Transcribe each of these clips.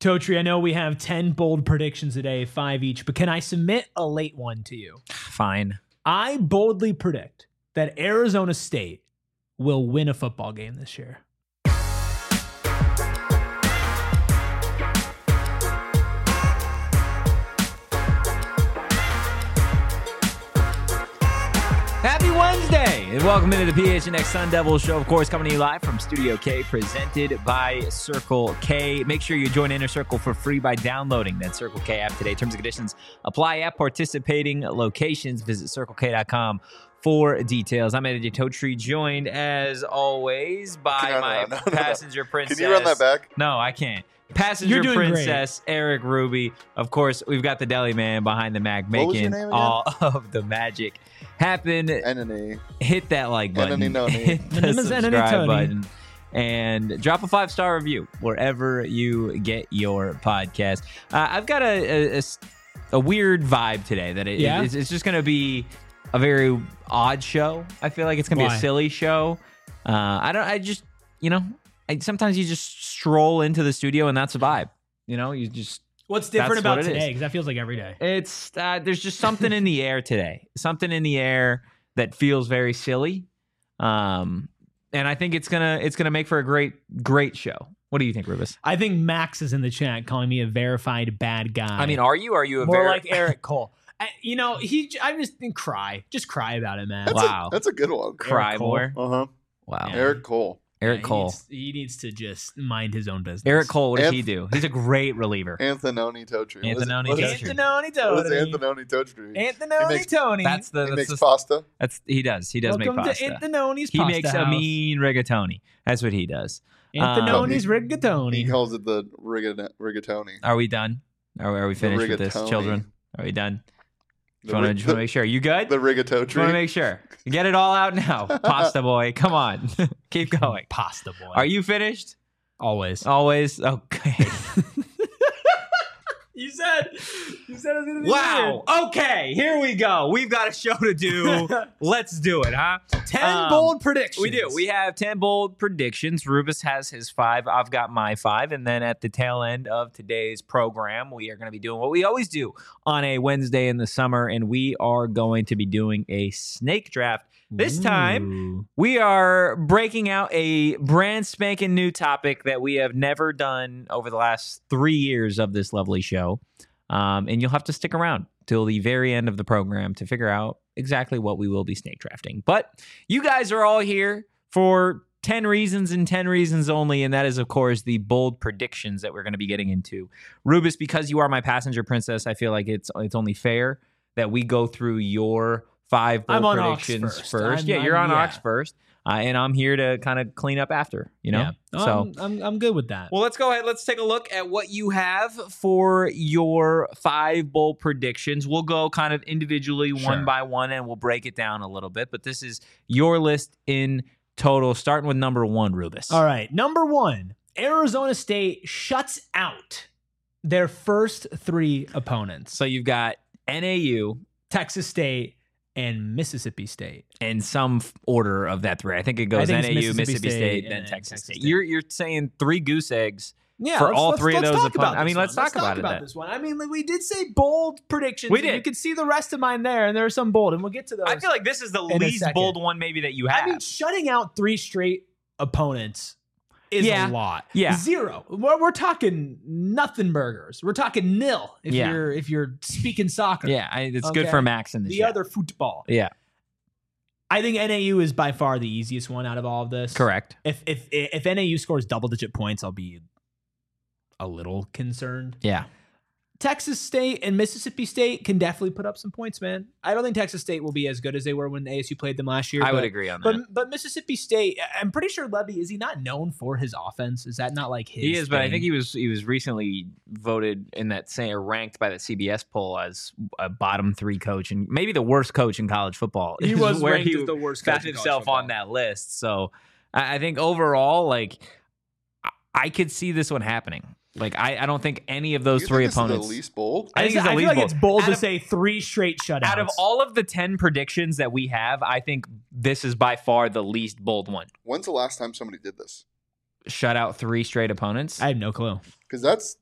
Totri, I know we have 10 bold predictions today, 5 each, but can I submit a late one to you? Fine. I boldly predict that Arizona State will win a football game this year. Happy Wednesday, and welcome into the PHNX Sun Devils show, of course, coming to you live from Studio K, presented by Circle K. Make sure you join Inner Circle for free by downloading that Circle K app today. Terms and conditions apply at participating locations. Visit CircleK.com for details. I'm Eddie Totri, joined, as always, by my passenger princess. Can you run that back? No, I can't. Passenger princess Eric Ruby. Of course, we've got the deli man behind the Mac making all of the magic happen. Hit that like button. Hit the subscribe button. And drop a 5-star review wherever you get your podcast. I've got a weird vibe today that it's just going to be a very odd show. I feel like it's going to be a silly show. Sometimes you just stroll into the studio and that's a vibe. What's different about today? Because that feels like every day. It's there's just something in the air today. Something in the air that feels very silly. And I think it's gonna make for a great show. What do you think, Rubus? I think Max is in the chat calling me a verified bad guy. I mean, are you? Are you more like Eric Cole? I just cry. Just cry about it, man. That's a good one. Cry more. Wow. Yeah. Eric Cole. Eric Cole. He needs to just mind his own business. Eric Cole, what does he do? He's a great reliever. Antonioni Totri. Antonioni Tony. He makes pasta. He does make pasta. To Antononi's he pasta makes house. a mean rigatoni. That's what he does. Antononi's rigatoni. He calls it the rigatoni. Are we done? Are we finished with this, children? Are we done? Just want to make sure. You good? The rigatoni. Just want to make sure. Get it all out now. Pasta boy. Come on. Keep going. Pasta boy. Are you finished? Always. Okay. You said it was going to be wow. weird. Okay. Here we go. We've got a show to do. Let's do it, huh? 10 bold predictions. We do. We have 10 bold predictions. Rubus has his 5. I've got my 5. And then at the tail end of today's program, we are going to be doing what we always do on a Wednesday in the summer. And we are going to be doing a snake draft. This time, we are breaking out a brand spanking new topic that we have never done over the last 3 years of this lovely show. And you'll have to stick around till the very end of the program to figure out exactly what we will be snake drafting. But you guys are all here for 10 reasons and 10 reasons only, and that is, of course, the bold predictions that we're going to be getting into. Rubus, because you are my passenger princess, I feel like it's only fair that we go through your 5 bold predictions first. You're on Ox first. And I'm here to kind of clean up after, Yeah. So I'm good with that. Well, let's go ahead. Let's take a look at what you have for your 5 bold predictions. We'll go kind of individually one by one, and we'll break it down a little bit. But this is your list in total, starting with number 1, Rubus. All right. Number 1, Arizona State shuts out their first 3 opponents. So you've got NAU, Texas State, and Mississippi State. In some order of that 3. I think it goes NAU, Mississippi State, then Texas State. You're saying 3 goose eggs for all 3 of those opponents. I mean, let's talk about this one. I mean, we did say bold predictions. We did. You can see the rest of mine there, and there are some bold, and we'll get to those. I feel like this is the least bold one maybe that you have. I mean, shutting out 3 straight opponents is a lot. Yeah. 0. We're talking nothing burgers. We're talking nil if you're speaking soccer. Yeah, it's good for Max in the other football. Yeah. I think NAU is by far the easiest one out of all of this. Correct. If NAU scores double-digit points, I'll be a little concerned. Yeah. Texas State and Mississippi State can definitely put up some points, man. I don't think Texas State will be as good as they were when ASU played them last year. I would agree on that. But Mississippi State, I'm pretty sure Levy, is he not known for his offense? Is that not like his He is, thing? but I think he was recently voted in that or ranked by the CBS poll as a bottom 3 coach and maybe the worst coach in college football. He was ranked as the worst coach found himself on that list. So I think overall, like, I could see this one happening. Like, I don't think any of those 3 opponents. Is the least bold? I think it's the least bold. It's bold to say 3 straight shutouts. Out of all of the 10 predictions that we have, I think this is by far the least bold one. When's the last time somebody did this? shut out 3 straight opponents? I have no clue. Because that's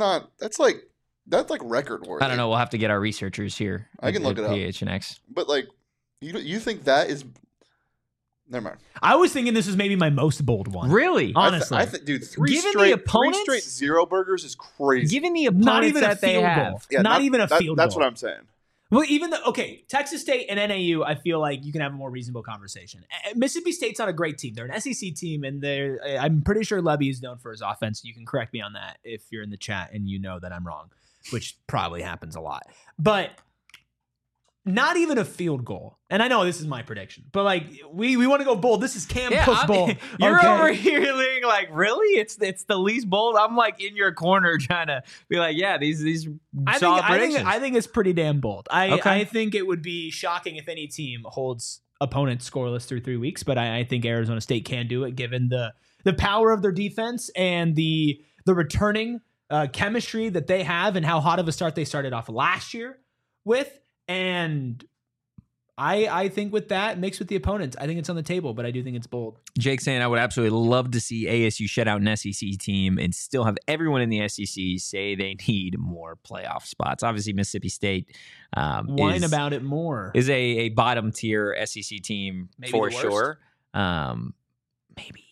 like record worthy. I don't know. We'll have to get our researchers here. I can look it up. PHNX. But like, you think that is? Never mind. I was thinking this was maybe my most bold one. Really? Honestly. Dude, three Given the straight opponents- zero burgers is crazy. Given the opponents Not even a that they field have. goal. Yeah, not even a field That's goal. what I'm saying. Well, even Texas State and NAU, I feel like you can have a more reasonable conversation. Mississippi State's not a great team. They're an SEC team, and I'm pretty sure Levy is known for his offense. You can correct me on that if you're in the chat and you know that I'm wrong, which probably happens a lot. But not even a field goal. And I know this is my prediction, but like we want to go bold. This is Cam Puss Bowl. You're Okay. over here being like, really? It's the least bold. I'm like in your corner trying to be like, yeah, these solid predictions. I think it's pretty damn bold. Okay. I think it would be shocking if any team holds opponents scoreless through 3 weeks, but I think Arizona State can do it given the power of their defense and the returning chemistry that they have and how hot of a start they started off last year with. And I think with that, mixed with the opponents, I think it's on the table, but I do think it's bold. Jake saying I would absolutely love to see ASU shut out an SEC team and still have everyone in the SEC say they need more playoff spots. Obviously, Mississippi State Whine about it more. is a bottom tier SEC team Maybe for the worst. sure. Maybe.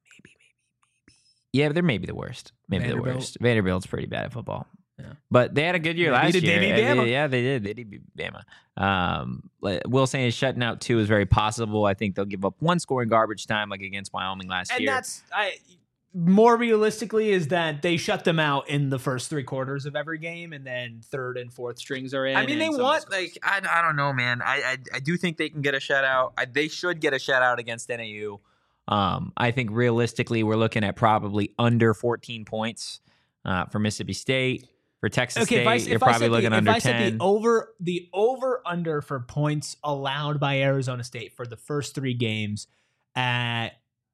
Yeah, they're maybe the worst. Maybe the Vanderbilt. worst. Vanderbilt's pretty bad at football. Yeah. But they had a good year They last beat- year. they beat Bama. Yeah, they did. They did beat Bama. Will saying shutting out 2 is very possible. I think they'll give up 1 score in garbage time, like against Wyoming last And year. that's more realistically is that they shut them out in the first 3 quarters of every game, and then 3rd and 4th strings are in. I mean, they and some want scores. I don't know, man. I do think they can get a shutout. They should get a shutout against NAU. I think realistically, we're looking at probably under 14 points for Mississippi State. For Texas State, you're probably looking under 10. If I said the over under for points allowed by Arizona State for the first 3 games at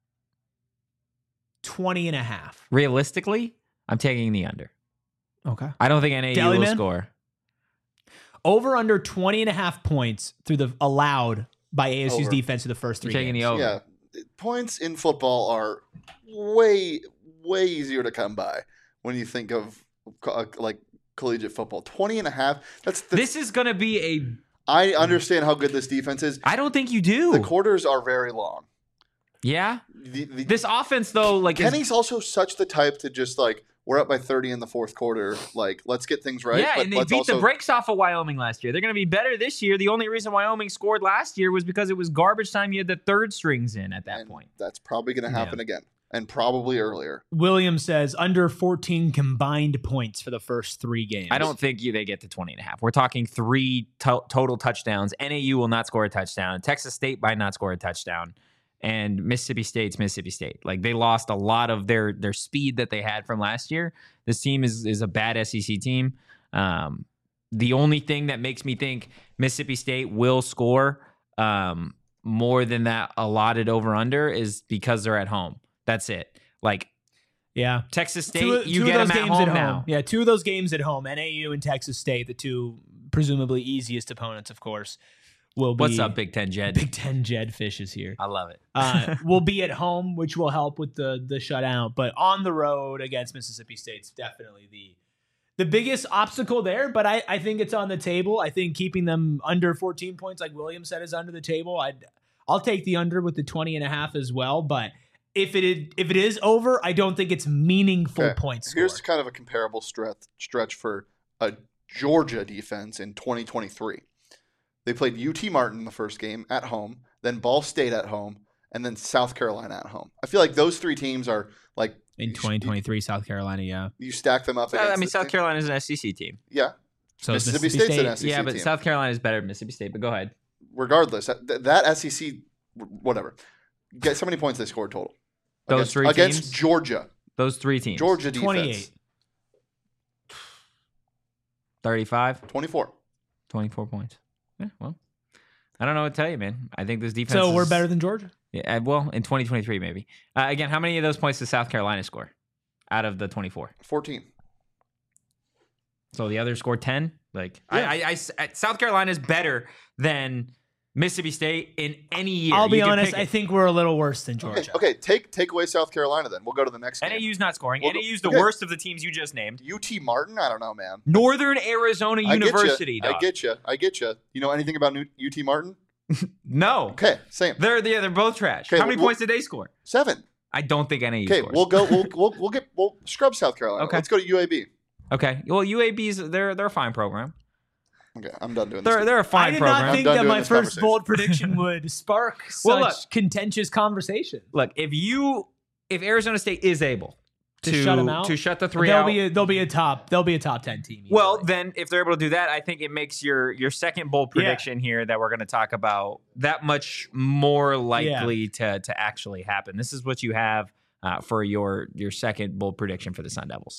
20.5. Realistically, I'm taking the under. Okay. I don't think NAU Deli will man? score. Over under 20.5 points through the allowed by ASU's Over. defense through the first 3 You're taking games. the over. Yeah, points in football are way easier to come by when you think of like collegiate football. 20.5. This is going to be I understand how good this defense is. I don't think you do. The quarters are very long. Yeah. The This offense, though, like, Kenny's also such the type to just like, we're up by 30 in the 4th quarter. Like, let's get things right. yeah, but and they let's beat also, the brakes off of Wyoming last year. They're going to be better this year. The only reason Wyoming scored last year was because it was garbage time. You had the 3rd strings in at that and point. That's probably going to happen again, and probably earlier. Williams says under 14 combined points for the first 3 games. I don't think they get to 20.5. We're talking 3 total touchdowns. NAU will not score a touchdown. Texas State might not score a touchdown. And Mississippi State's Mississippi State. Like, they lost a lot of their speed that they had from last year. This team is a bad SEC team. The only thing that makes me think Mississippi State will score more than that allotted over-under is because they're at home. That's it. Like, Yeah. Texas State, Two you of get those them at games home now. Yeah, 2 of those games at home. NAU and Texas State, the 2 presumably easiest opponents, of course, will be. What's up, Big Ten Jed? Big Ten Jed Fish is here. I love it. Will be at home, which will help with the shutout. But on the road against Mississippi State's definitely the biggest obstacle there. But I think it's on the table. I think keeping them under 14 points, like William said, is under the table. I'll take the under with the 20.5 as well. But if it is over, I don't think it's meaningful points. Here's kind of a comparable stretch for a Georgia defense in 2023. They played UT Martin the first game at home, then Ball State at home, and then South Carolina at home. I feel like those 3 teams are like in 2023, South Carolina. Yeah. You stack them up against. I mean, this South team. Carolina's an SEC team. Yeah. So is Mississippi State's State. an SEC Yeah, but team. South Carolina is better than Mississippi State. But go ahead. Regardless, that SEC, whatever. Guess how many points they scored total? Those 3 against teams? Georgia. Those 3 teams. Georgia defense. 28. 35, 24. 24 points. Yeah, well, I don't know what to tell you, man. I think this defense So we're is- better than Georgia. Yeah, well, in 2023, maybe. Again, how many of those points does South Carolina score out of the 24? 14. So the others scored 10? Like, Yeah. South Carolina is better than Mississippi State in any year. I'll be You can honest. pick I it. think we're a little worse than Georgia. Okay, take away South Carolina then. We'll go to the next game. NAU's not scoring. Well, NAU's the okay. worst of the teams you just named. UT Martin? I don't know, man. Northern Arizona University. I get you. You know anything about UT Martin? No. Okay, same. They're both trash. Okay, How many points did they score? 7. I don't think NAU Okay, scores. we'll scrub South Carolina. Okay. Let's go to UAB. Okay. Well, UAB's they're a fine program. Okay, I'm done doing this. They're a I fine did program. not think done that doing my this first conversation. bold prediction would spark Well, such look. contentious conversation. Look, if Arizona State is able To shut 'em out? to shut the 3 They'll out, be a top 10 team. well, easily. then if they're able to do that, I think it makes your second bold Yeah. prediction here that we're going to talk about that much more likely to actually happen. This is what you have for your second bold prediction for the Sun Devils.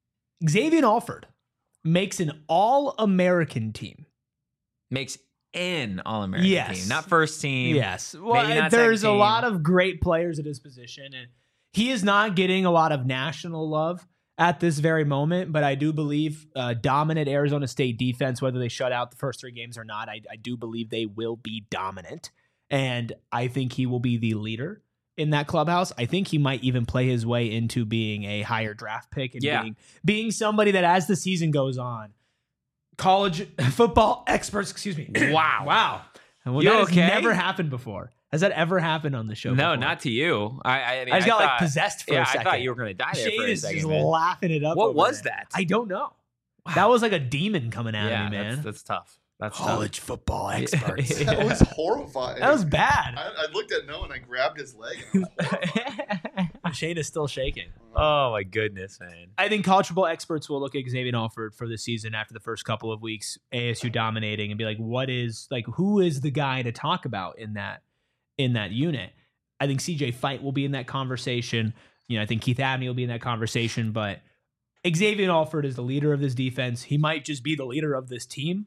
Xavier Alford makes an All-American team. Makes an All-American Yes. team, not first team. Yes. Well, Maybe not there's second a team. lot of great players at his position, and he is not getting a lot of national love at this very moment. But I do believe dominant Arizona State defense, whether they shut out the first 3 games or not, I do believe they will be dominant. And I think he will be the leader in that clubhouse. I think he might even play his way into being a higher draft pick and being somebody that as the season goes on, college football experts, excuse me. Wow. Well, You that has okay? never happened before. Has that ever happened on the show? No, before? not to you. I mean, I just got thought, possessed for yeah, a second. I thought you were going to die there Shane for a is second. just man. laughing it up. What over was there. that? I don't know. That was like a demon coming out Yeah, of me, man. that's tough. That's College football experts. Yeah. That was horrifying. That was bad. I looked at Noah and I grabbed his leg. And I was horrified. Shane is still shaking. Oh my goodness, man. I think college football experts will look at Xavier Alford for the season after the first couple of weeks, ASU dominating, and be like, who is the guy to talk about in that unit? I think CJ Fight will be in that conversation. I think Keith Abney will be in that conversation, but Xavier Alford is the leader of this defense. He might just be the leader of this team,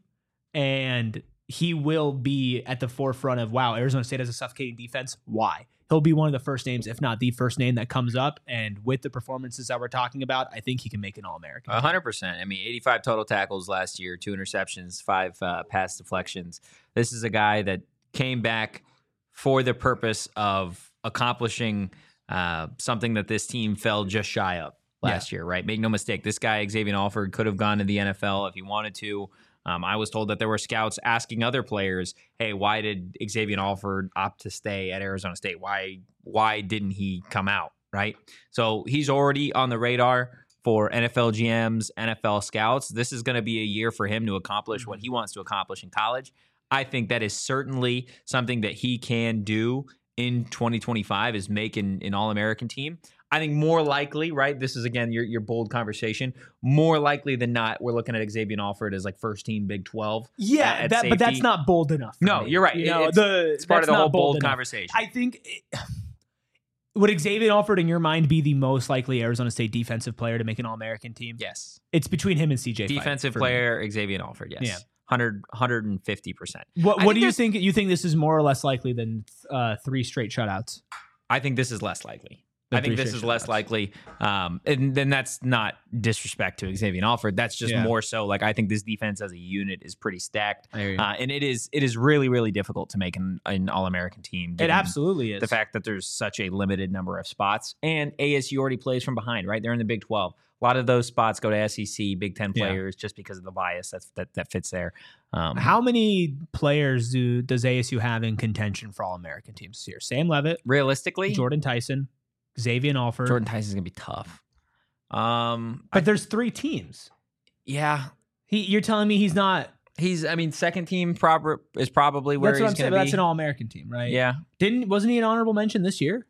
and he will be at the forefront of, wow, Arizona State has a suffocating defense. Why? He'll be one of the first names, if not the first name that comes up. And with the performances that we're talking about, I think he can make an All-American. 100%. I mean, 85 total tackles last year, 2 interceptions, 5 pass deflections. This is a guy that came back for the purpose of accomplishing something that this team fell just shy of last year, right? Make no mistake, this guy, Xavier Alford, could have gone to the NFL if he wanted to. I was told that there were scouts asking other players, hey, why did Xavier Alford opt to stay at Arizona State? Why didn't he come out, right? So he's already on the radar for NFL GMs, NFL scouts. This is going to be a year for him to accomplish what he wants to accomplish in college. I think that is certainly something that he can do in 2025 is make an All-American team. I think more likely, right? This is, again, your bold conversation. More likely than not, we're looking at Xavier Alford as like first team Big 12. Yeah, at but safety. that's not bold enough. for No, me. you're right. It's part of that's the not whole bold enough. conversation. I think would Xavier Alford, in your mind, be the most likely Arizona State defensive player to make an All-American team? Yes. It's between him and CJ. Defensive Fight, player, Xavier Alford, yes. Yeah. 150%. What do you think? You think this is more or less likely than 3 straight shutouts? I think this is less likely. The I think three this is straight less shutouts. likely. And then that's not disrespect to Xavier Alford. That's just more so like I think this defense as a unit is pretty stacked. And it is really, really difficult to make an All-American team. It given absolutely is. the fact that there's such a limited number of spots. And ASU already plays from behind, right? They're in the Big 12. A lot of those spots go to SEC, Big 10 players, just because of the bias that fits there. How many players does ASU have in contention for All-American teams this year? Sam Levitt, Realistically, Jordan Tyson, Xavier Alford. Jordan Tyson's going to be tough. But there's 3 teams. Yeah. You're telling me he's not. Second team is probably where That's what he's I'm saying. going to be. That's an All-American team, right? Yeah. Wasn't he an honorable mention this year?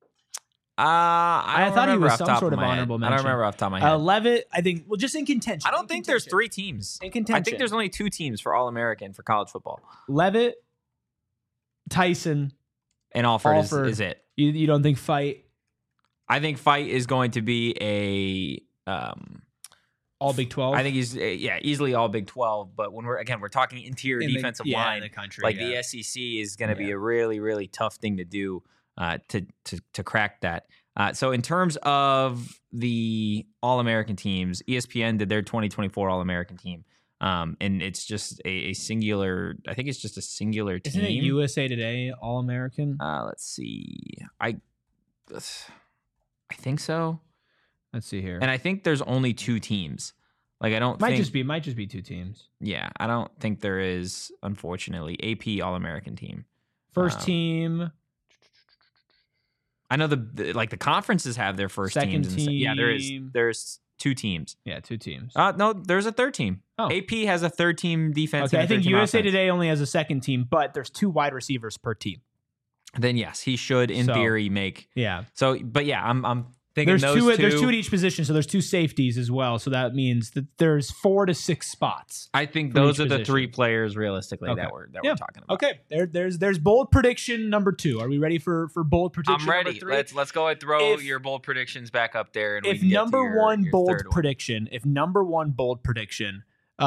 I thought he remember was off the some top sort of of my head. honorable I mention. don't remember off the top of my head. Levitt, I think. Well, just in contention. I don't think there's 3 teams. In contention. I think there's only 2 teams for All-American for college football. Levitt, Tyson, And Alford Alford. is it. You don't think Fight? I think Fight is going to be All Big 12? I think he's easily all Big 12. But when we're talking interior In the- defensive yeah, line, in the country, like yeah. the SEC is going to be a really, really tough thing to do to crack that. So in terms of the All-American teams, ESPN did their 2024 All-American team. And it's just a singular. I think it's just a singular team. Isn't it USA Today All American? Let's see. I think so. Let's see here. And I think there's only 2 teams. Like I don't might think just be 2 teams. Yeah, I don't think there is, unfortunately, AP All-American team. First team. I know the conferences have their first Second teams. team. Yeah, there's 2 teams. Yeah, 2 teams. No, there's a third team. Oh. AP has a third team defense. Okay, and I a think third team USA offense. Today only has a second team, but there's 2 wide receivers per team. Then yes, he should in theory make. Yeah. So, but yeah, I'm thinking There's 2 at each position, so there's 2 safeties as well. So that means that there's 4 to 6 spots. I think for those each are the position. 3 players realistically Okay. that we're talking about. Okay, there's bold prediction number 2. Are we ready for bold prediction? I'm ready. Number 3? Let's go and throw your bold predictions back up there. And we If can get to number your 1 bold third one. prediction, if number 1 bold prediction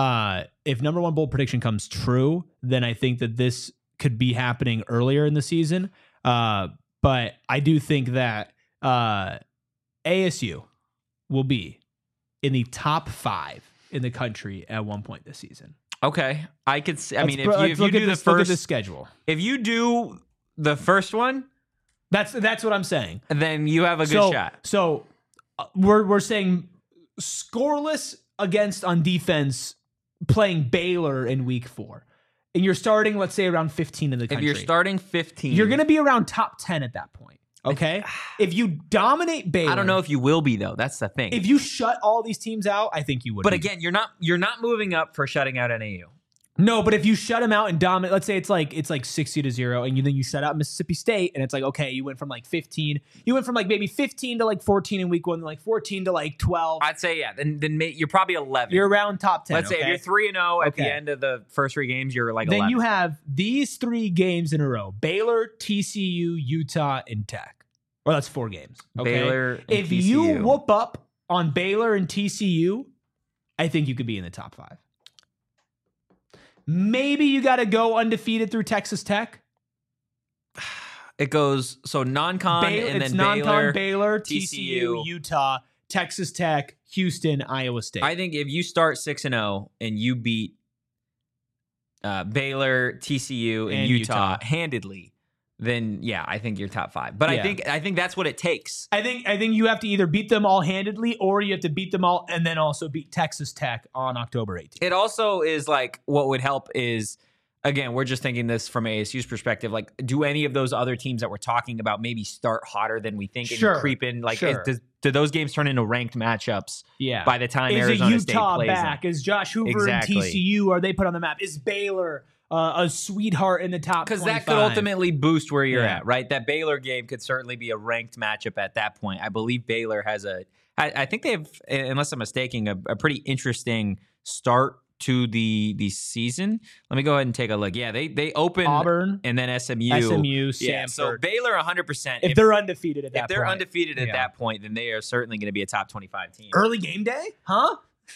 comes true, then I think that this could be happening earlier in the season. But I do think that ASU will be in the top 5 in the country at one point this season. Okay, I could. I mean, if Let's you look do at the this, look at first, this schedule. if you do the first one, That's what I'm saying. then you have a good shot. So we're saying scoreless against on defense, playing Baylor in week 4, and you're starting, let's say, around 15 in the If country. you're starting 15, you're going to be around top 10 at that point. Okay, if you dominate Baylor, I don't know if you will be though. That's the thing. if you shut all these teams out, I think you would. But be. again, you're not moving up for shutting out NAU. No, but if you shut them out and dominate, let's say it's like 60-0, and then you shut out Mississippi State, and it's like, okay, you went from like 15, you went from like maybe 15 to like 14 in week 1, like 14 to like 12. I'd say then you're probably 11. You're around top 10. Let's say if you're 3-0 at Okay. the end of the first 3 games, you're like then 11. you have these 3 games in a row: Baylor, TCU, Utah, and Tech. Or that's 4 games. Okay? Baylor and if TCU. you whoop up on Baylor and TCU, I think you could be in the top 5. Maybe you got to go undefeated through Texas Tech. It goes so non-con and it's then non-con, Baylor, TCU, TCU, Utah, Texas Tech, Houston, Iowa State. I think if you start 6-0 and you beat Baylor, TCU, and Utah handedly, then yeah, I think you're top 5. But Yeah. I think that's what it takes. I think you have to either beat them all handedly, or you have to beat them all and then also beat Texas Tech on October 18th. It also is like what would help is, again, we're just thinking this from ASU's perspective. Like, do any of those other teams that we're talking about maybe start hotter than we think and Sure. creep in? Like, Sure. do those games turn into ranked matchups Yeah. by the time Is Arizona it State Utah plays back? them? Is Josh Hoover Exactly. and TCU? Are they put on the map? Is Baylor a sweetheart in the top 25? Because that could ultimately boost where you're Yeah. at, right? That Baylor game could certainly be a ranked matchup at that point. I believe Baylor has I think they have, unless I'm mistaken, a pretty interesting start to the season. Let me go ahead and take a look. Yeah, they open Auburn, and then SMU. Stanford. Yeah, so Baylor 100%. If they're undefeated at that if they're point. undefeated at Yeah. that point, then they are certainly going to be a top 25 team. Early game day? Huh?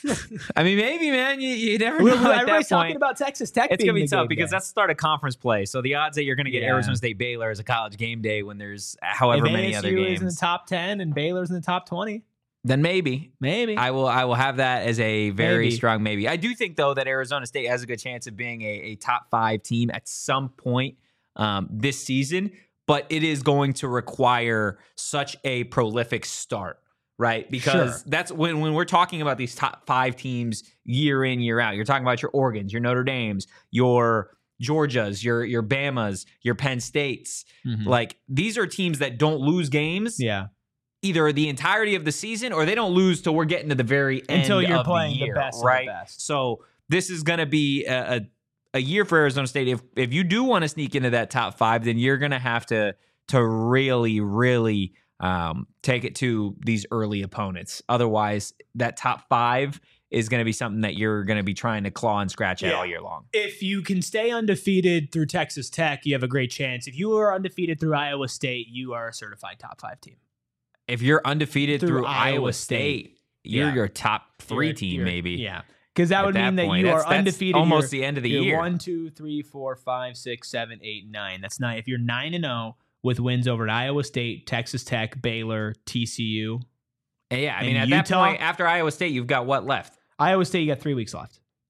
I mean, maybe, man. You never know at that Everybody's talking point. about Texas Tech. It's going to being be the tough game because day. that's the start of conference play. So the odds that you're going to get Yeah. Arizona State Baylor as a college game day when there's however if many ASU other is in the games, top 10 and Baylor's in the top 20, then maybe. maybe. I will have that as a very Maybe. strong maybe. I do think, though, that Arizona State has a good chance of being a top 5 team at some point this season, but it is going to require such a prolific start, right? Because Sure. that's when we're talking about these top 5 teams year in, year out. You're talking about your Oregons, your Notre Dames, your Georgias, your Bamas, your Penn States. Mhm. Like, these are teams that don't lose games Yeah. either the entirety of the season or they don't lose till we're getting to the very end Until you're of playing the year, the best right? of the best. So this is going to be a year for Arizona State. If you do want to sneak into that top 5, then you're going to have to really, really take it to these early opponents. Otherwise, that top 5 is going to be something that you're going to be trying to claw and scratch at Yeah. all year long. If you can stay undefeated through Texas Tech, you have a great chance. If you are undefeated through Iowa State, you are a certified top 5 team. If you're undefeated through Iowa Iowa State, you're Yeah. your top 3 You're- team, you're- maybe. Yeah. Because that At would that mean that point. you That's- are that's undefeated. almost You're- the end of the you're year. 1, 2, 3, 4, 5, 6, 7, 8, 9. That's 9. If you're 9-0 with wins over at Iowa State, Texas Tech, Baylor, TCU, Yeah, I mean, And at that Utah? point, after Iowa State, you've got what left? Iowa State, you got 3 weeks left.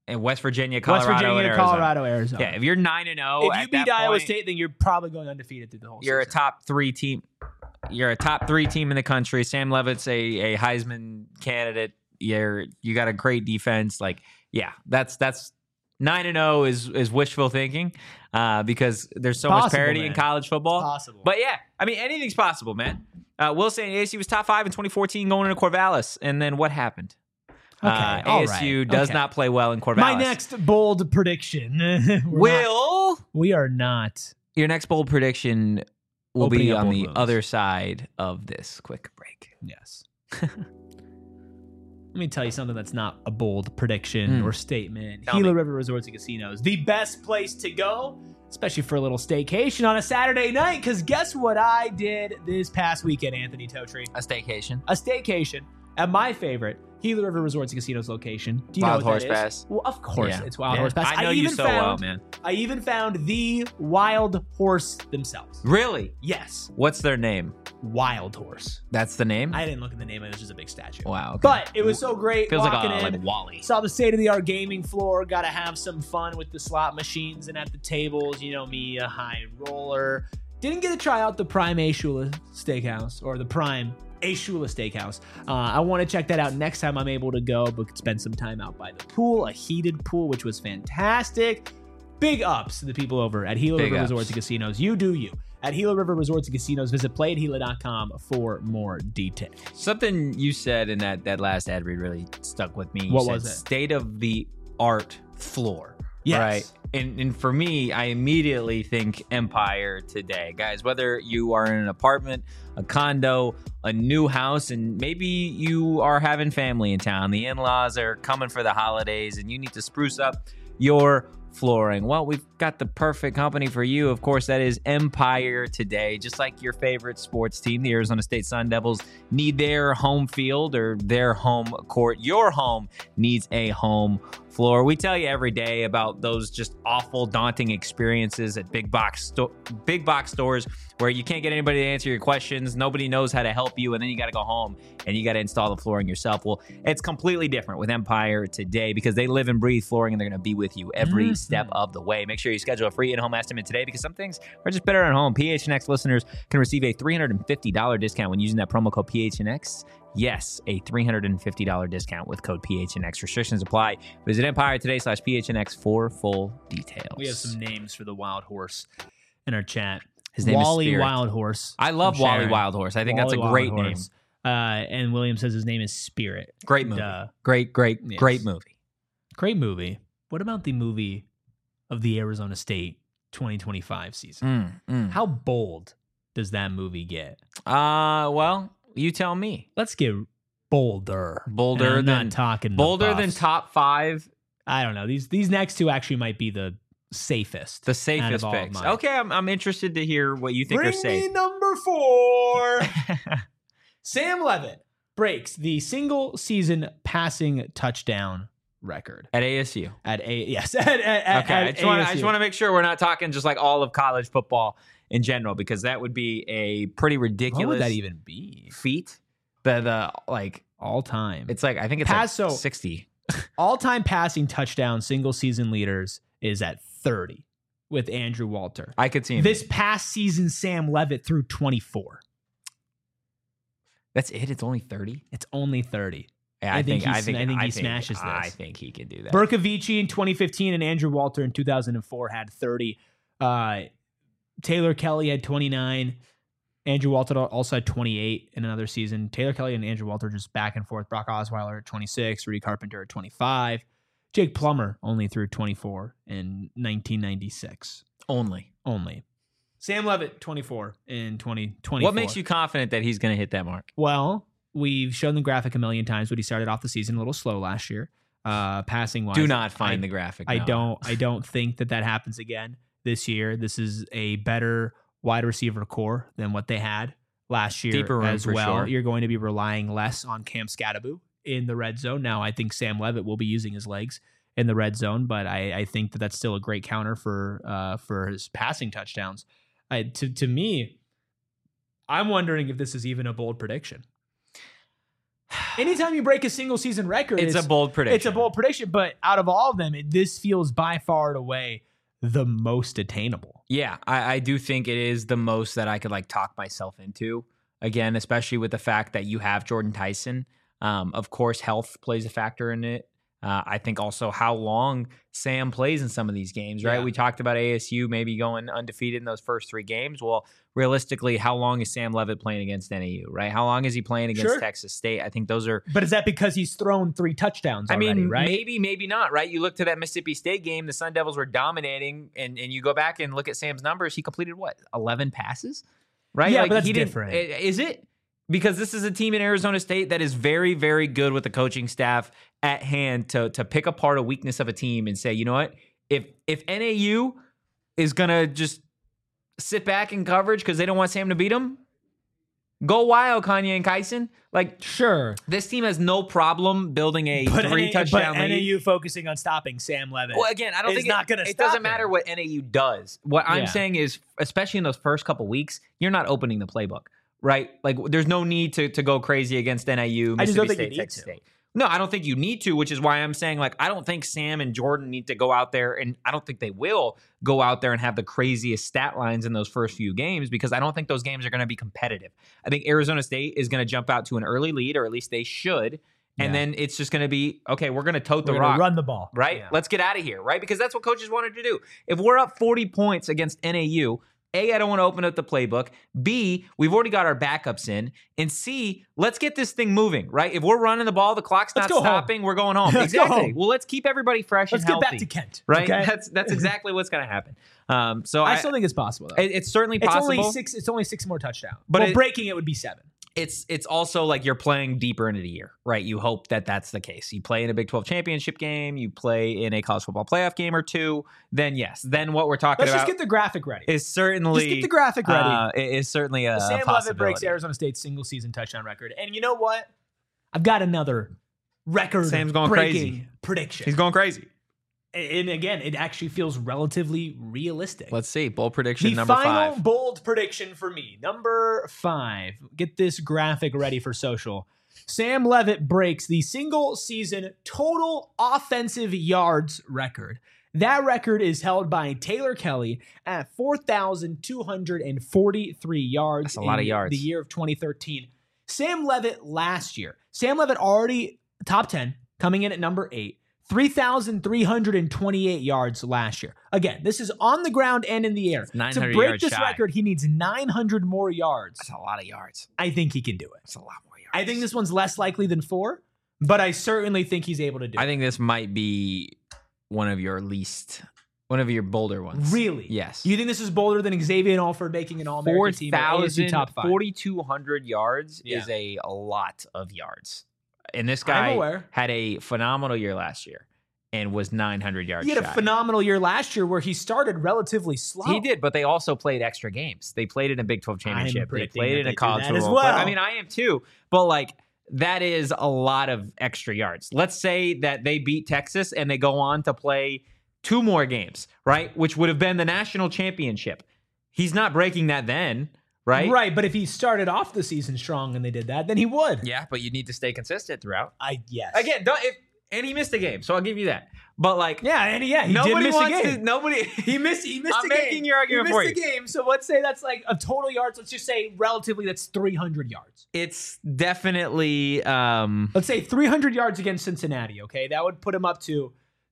And West Virginia, Colorado, West Virginia, and Arizona. Colorado, Arizona. Yeah, if you're 9-0, If at you beat that Iowa point, State, then you're probably going undefeated through the whole you're a season. top 3 team. You're a top 3 team in the country. Sam Levitt's a Heisman candidate. You got a great defense. Like, yeah, that's 9-0 is wishful thinking because there's so much Possible, parity man. in college football. Possible. But yeah, I mean, anything's possible, man. Will saying ASU was top 5 in 2014 going into Corvallis. And then what happened? Okay, all ASU right. does Okay. not play well in Corvallis. My next bold prediction. We are not. Your next bold prediction will Opening be up on bold the wounds. other side of this quick break. Yes. Let me tell you something that's not a bold prediction or statement. Tell Gila me. River Resorts and Casinos, the best place to go, especially for a little staycation on a Saturday night. Because guess what I did this past weekend, Anthony Totri? A staycation. A staycation at my favorite Gila River Resorts and Casinos location. Do you Wild know what Horse that is? Pass. Well, of course, Yeah. it's Wild Yeah. Horse Pass. I know you so well, man. I even found the Wild Horse themselves. Really? Yes, What's their name? Wild Horse. That's the name? I didn't look at the name. It was just a big statue. Wow. Okay. But it was so great Feels like walking in. like Wally. Saw the state-of-the-art gaming floor. Got to have some fun with the slot machines and at the tables. You know me, a high roller. Didn't get to try out the Prime Ashula Steakhouse or the Prime Ashula Steakhouse. I want to check that out next time I'm able to go, but could spend some time out by the pool, a heated pool, which was fantastic. Big ups to the people over at Gila Big River ups. Resorts and Casinos. You do you. At Gila River Resorts and Casinos, visit playatgila.com for more details. Something you said in that last ad read really stuck with me. You What said was it? State of the art floor. Yes. Right. And for me, I immediately think Empire today. Guys, whether you are in an apartment, a condo, a new house, and maybe you are having family in town, the in-laws are coming for the holidays, and you need to spruce up your flooring. Well, we've got the perfect company for you. Of course, that is Empire today. Just like your favorite sports team, the Arizona State Sun Devils need their home field or their home court. Your home needs a home floor. We tell you every day about those just awful, daunting experiences at big box stores where you can't get anybody to answer your questions. Nobody knows how to help you, and then you got to go home and you got to install the flooring yourself. Well, it's completely different with Empire today because they live and breathe flooring, and they're going to be with you every step of the way. Make sure you schedule a free in-home estimate today because some things are just better at home. PHNX listeners can receive a $350 discount when using that promo code PHNX. Yes, a $350 discount with code PHNX. Restrictions apply. Visit Empire today/PHNX for full details. We have some names for the Wild Horse in our chat. His name is Wally Spirit. Wild Horse. I love from Wally Sharon. Wild Horse. I think that's a Wally great Wild name. Horse. And William says his name is Spirit. Great movie. And, Great yes. movie. Great movie. What about the movie of the Arizona State 2025 season? How bold does that movie get? Well, you tell me. Let's get bolder. Bolder And I'm than not talking the Bolder than buffs. top 5. I don't know. These next two actually might be the safest. The out safest of all of picks. mine. Okay, I'm interested to hear what you think Bring are safe. me number 4. Sam Levitt breaks the single season passing touchdown record At ASU. at yes. Okay, I just want ASU. to make sure we're not talking just like all of college football in general because that would be a pretty ridiculous What would that even be? feat. The like All time. it's like I think it's Pass, like so- 60. All-time passing touchdown single season leaders is at 30 with Andrew Walter. I could see him. This past season, Sam Levitt threw 24. That's it. It's only 30. It's only 30. Yeah, I think he smashes this. I think he can do that. Berkovici in 2015 and Andrew Walter in 2004 had 30. Taylor Kelly had 29. Andrew Walter also had 28 in another season. Taylor Kelly and Andrew Walter just back and forth. Brock Osweiler at 26. Rudy Carpenter at 25. Jake Plummer only threw 24 in 1996. Only. Sam Levitt, 24 in 2024. What makes you confident that he's going to hit that mark? Well, we've shown the graphic a million times, but he started off the season a little slow last year, passing wise. Do not find the graphic. I no. don't think that happens again this year. This is a better wide receiver core than what they had last year Deeper room as for well. sure. You're going to be relying less on Cam Scatterbu in the red zone. Now, I think Sam Levitt will be using his legs in the red zone, but I think that that's still a great counter for his passing touchdowns. To me, I'm wondering if this is even a bold prediction. Anytime you break a single season record, It's a bold prediction. It's a bold prediction, but out of all of them, this feels by far and away the most attainable. Yeah, I do think it is the most that I could like talk myself into. Again, especially with the fact that you have Jordan Tyson. Of course, health plays a factor in it. I think also how long Sam plays in some of these games, right? Yeah. We talked about ASU maybe going undefeated in those first 3 games. Well, realistically, how long is Sam Leavitt playing against NAU, right? How long is he playing against Sure. Texas State? I think those are... But is that because he's thrown 3 touchdowns already, right? maybe not, right? You look to that Mississippi State game, the Sun Devils were dominating, and you go back and look at Sam's numbers, he completed, 11 passes? Right? Yeah, like, but that's he didn't- different. Is it? Because this is a team in Arizona State that is very, very good with the coaching staff at hand to pick apart a weakness of a team and say, you know what? If NAU is going to just sit back in coverage because they don't want Sam to beat them, go wild, Kanye and Kyson. Like, Sure. this team has no problem building a 3-touchdown but lead. NAU focusing on stopping Sam Leavitt. Well, again, I don't is think not gonna it stop doesn't him. matter what NAU does. What I'm Yeah. saying is, especially in those first couple weeks, you're not opening the playbook, right? Like, there's no need to go crazy against NAU, I just don't Mississippi think you State, need Texas to. State. No, I don't think you need to, which is why I'm saying, like, I don't think Sam and Jordan need to go out there, and I don't think they will go out there and have the craziest stat lines in those first few games, because I don't think those games are going to be competitive. I think Arizona State is going to jump out to an early lead, or at least they should, and Yeah. then it's just going to be, okay, we're going to tote We're the gonna rock. run the ball. Right? Yeah. Let's get out of here, right? Because that's what coaches wanted to do. If we're up 40 points against NAU, A, I don't want to open up the playbook. B, we've already got our backups in. And C, let's get this thing moving, right? If we're running the ball, the clock's Let's not go home. stopping, we're going home. Let's go Exactly. home. Well, let's keep everybody fresh Let's and get healthy. back to Kent. Right? Okay? That's exactly what's going to happen. So I still think it's possible, though. it's certainly It's possible. only six more touchdowns. But But it- breaking it would be 7. It's also like you're playing deeper into the year, right? You hope that that's the case. You play in a Big 12 championship game, you play in a college football playoff game or 2, then yes. Then what we're talking Let's about just get the graphic ready. is certainly Just get the graphic ready. is certainly a Sam Leavitt possibility. breaks Arizona State's single season touchdown record. And you know what? I've got another record Sam's going breaking crazy. prediction. He's going crazy. And again, it actually feels relatively realistic. Let's see. Bold prediction The number final 5. bold prediction for me, number 5. Get this graphic ready for social. Sam Leavitt breaks the single season total offensive yards record. That record is held by Taylor Kelly at 4,243 yards. That's a lot of in yards. The year of 2013. Sam Leavitt last year. Sam Leavitt already top 10, coming in at number 8. 3,328 yards last year. Again, this is on the ground and in the air. To 900 break yards this shy. record, he needs 900 more yards. That's a lot of yards. I think he can do it. That's a lot more yards. I think this one's less likely than 4, but I certainly think he's able to do I it. think this might be one of your bolder ones. Really? Yes. You think this is bolder than Xavier Alford making an All-American team at ASU top 5? 4,200 yards Yeah. is a lot of yards. And this I'm guy aware. had a phenomenal year last year and was 900 yards He had a shy. phenomenal year last year where he started relatively slow. He did, but they also played extra games. They played in a Big 12 championship. They predicting played that in they a do college that as football. well. I mean, I am too. But like, that is a lot of extra yards. Let's say that they beat Texas and they go on to play 2 more games, right? Which would have been the national championship. He's not breaking that then, right? Right, but if he started off the season strong and they did that, then he would. Yeah, but you need to stay consistent throughout. Yes. Again, and he missed a game, so I'll give you that. But like, Yeah, he did nobody miss a wants game. to. Nobody. He missed I'm a game. making your argument he for missed you. a game, so let's say that's like a total yards. Let's just say relatively that's 300 yards. It's definitely. Let's say 300 yards against Cincinnati, okay? That would put him up to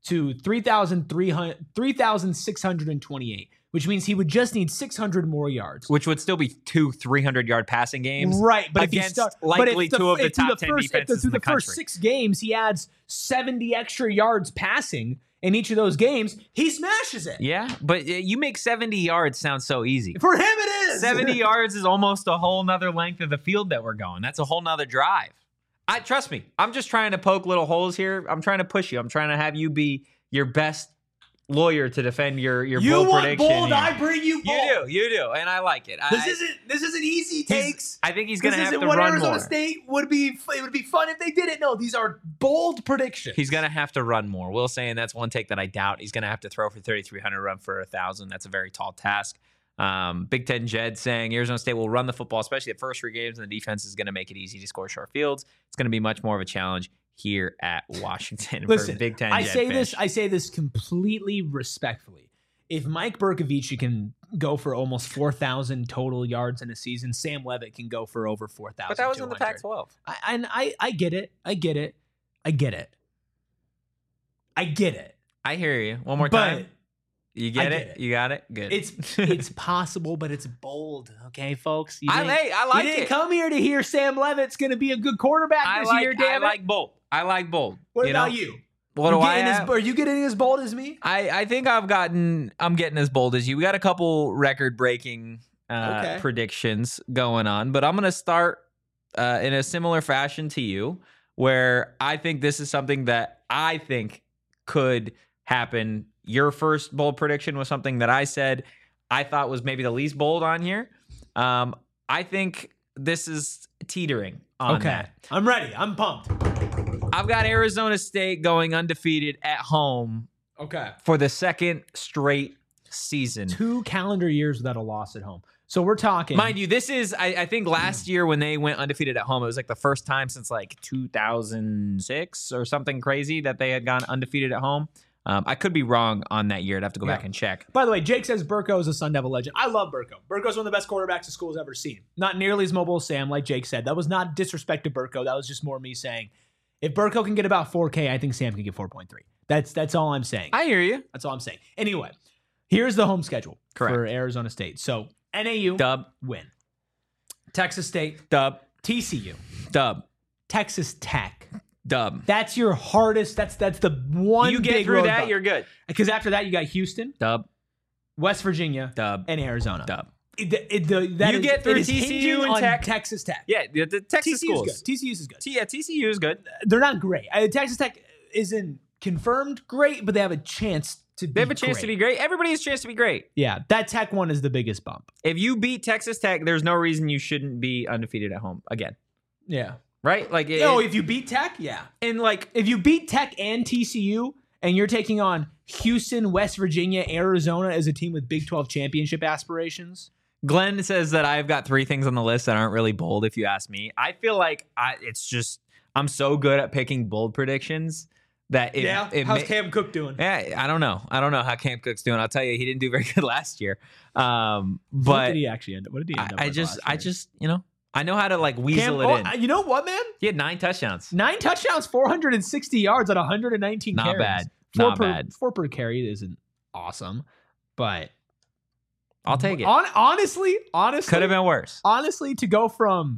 3,628, which means he would just need 600 more yards. Which would still be 2 300-yard passing games. Right, but if he against starts likely 2 of the top 10 defenses through in the the first country. 6 games, he adds 70 extra yards passing in each of those games. He smashes it. Yeah, but you make 70 yards sound so easy. For him, it is 70 yards is almost a whole nother length of the field that we're going. That's a whole nother drive. Trust me, I'm just trying to poke little holes here. I'm trying to push you. I'm trying to have you be your best lawyer to defend your You bold want prediction. bold? here. I bring you bold. You do, and I like it. This isn't easy takes. I think he's going This to have isn't to what run Arizona more. State would be. It would be fun if they did it. No, these are bold predictions. He's going to have to run more. Will saying that's one take that I doubt. He's going to have to throw for 3,300, run for 1,000. That's a very tall task. Big Ten Jed saying Arizona State will run the football, especially the first 3 games, and the defense is going to make it easy to score short fields. It's going to be much more of a challenge here at Washington. Listen, for Big Ten I Jed say fans. this. I say this completely respectfully. If Mike Bercovici can go for almost 4,000 total yards in a season, Sam Levitt can go for over 4,000. But that was in the Pac-12. I get it. I get it. I get it. I get it. I hear you. One more But time. You get I it? get it. You got it? Good. It's possible, but it's bold. Okay, folks. I like you didn't it. come here to hear Sam Levitt's going to be a good quarterback this year, damn it. I like bold. I like bold. What you about know? you? What do I have? Are you getting as bold as me? I think I'm getting as bold as you. We got a couple record-breaking Okay. predictions going on, but I'm going to start in a similar fashion to you, where I think this is something that I think could happen. Your first bold prediction was something that I said I thought was maybe the least bold on here. I think this is teetering on that. I'm ready. I'm pumped. I've got Arizona State going undefeated at home Okay. for the second straight season. 2 calendar years without a loss at home. So we're talking. Mind you, this is, I think last year when they went undefeated at home, it was like the first time since like 2006 or something crazy that they had gone undefeated at home. I could be wrong on that year. I'd have to go back and check. By the way, Jake says Burko is a Sun Devil legend. I love Burko. Burko's one of the best quarterbacks the school's ever seen. Not nearly as mobile as Sam, like Jake said. That was not disrespect to Burko. That was just more me saying, if Burko can get about 4K, I think Sam can get 4.3. That's all I'm saying. I hear you. That's all I'm saying. Anyway, here's the home schedule Correct. for Arizona State. So NAU, Dub. win. Texas State, Dub. TCU, Dub. Texas Tech. Dub. That's your hardest. That's the one. You get big through road that, bump. you're good. Because after that, you got Houston, Dub. West Virginia, Dub. and Arizona. Dub. You get through TCU and Tech. Texas Tech. Yeah, the Texas TCU schools. is good. TCU is good. TCU is good. They're not great. Texas Tech isn't confirmed great, but they have a chance to be They have a chance to be great. Everybody has a chance to be great. Yeah, that Tech one is the biggest bump. If you beat Texas Tech, there's no reason you shouldn't be undefeated at home again. Yeah. Right? Like, if you beat Tech, yeah. and like, If you beat Tech and TCU and you're taking on Houston, West Virginia, Arizona as a team with Big 12 championship aspirations. Glenn says that I've got 3 things on the list that aren't really bold, if you ask me. I feel like I'm so good at picking bold predictions that how's Cam Cook doing? Yeah, I don't know how Cam Cook's doing. I'll tell you, he didn't do very good last year. What But did he actually end up? What did he end up I with just, last year? I know how to like weasel it in. You know what, man? He had 9 touchdowns. 9 touchdowns, 460 yards on 119 Not carries. bad. Not bad. 4 per carry isn't awesome, but I'll take it. Honestly, Could have been worse. honestly, to go from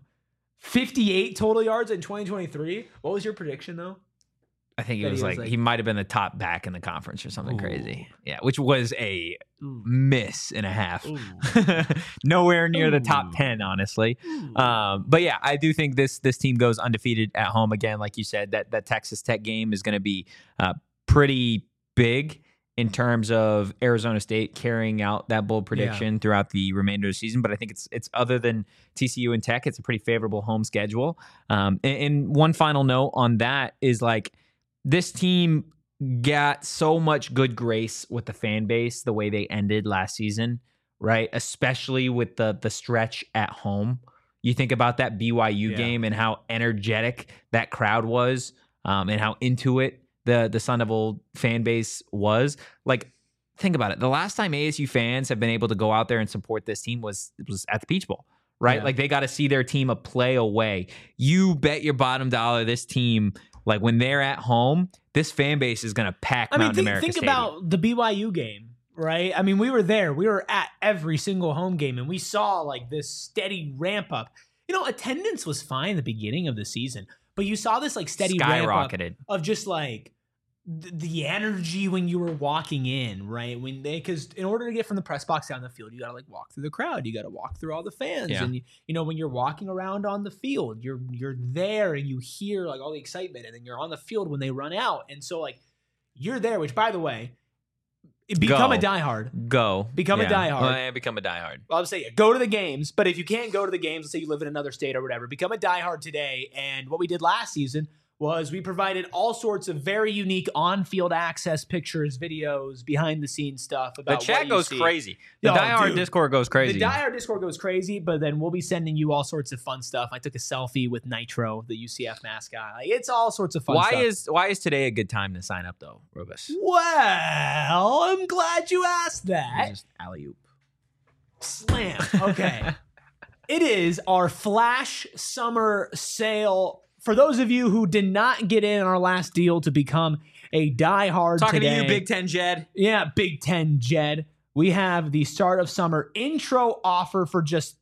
58 total yards in 2023, what was your prediction though? I think That it was he was like like- he might have been the top back in the conference or something Ooh. crazy. Yeah, which was a Ooh. miss and a half. Ooh. Nowhere near the Ooh. top 10, honestly. But yeah, I do think this team goes undefeated at home again. Like you said, that Texas Tech game is going to be pretty big in terms of Arizona State carrying out that bold prediction throughout the remainder of the season. But I think it's other than TCU and Tech, it's a pretty favorable home schedule. And one final note on that is like this team got so much good grace with the fan base the way they ended last season, right? Especially with the stretch at home. You think about that BYU game and how energetic that crowd was, and how into it the Sun Devil fan base was. Like, think about it. The last time ASU fans have been able to go out there and support this team was at the Peach Bowl, right? Yeah. Like, they got to see their team a play away. You bet your bottom dollar this team, like when they're at home, this fan base is going to pack Mountain America think Stadium. about the BYU game, right? I mean, we were there. We were at every single home game, and we saw like this steady ramp up. Attendance was fine at the beginning of the season, but you saw this like steady ramp up skyrocketed. of just like the energy when you were walking in, right? Because in order to get from the press box down the field, you got to like walk through the crowd. You got to walk through all the fans. Yeah. And when you're walking around on the field, you're there and you hear like all the excitement, and then you're on the field when they run out. And so like you're there, which by the way, become a diehard. Become a diehard. Well, yeah, become a diehard. Well, I would say go to the games, but if you can't go to the games, let's say you live in another state or whatever, become a diehard today. And what we did last season was we provided all sorts of very unique on-field access pictures, videos, behind-the-scenes stuff The about chat what you goes see. crazy. The Oh, diehard dude. Discord goes crazy. The diehard Discord goes crazy, but then we'll be sending you all sorts of fun stuff. I took a selfie with Nitro, the UCF mascot. Like, it's all sorts of fun stuff. Why is today a good time to sign up though, Rubus? Well, I'm glad you asked that. Just alley-oop. Slam. Okay. It is our flash summer sale. For those of you who did not get in our last deal to become a diehard Talking today, to you, Big Ten Jed. Yeah, Big Ten Jed. We have the start of summer intro offer for just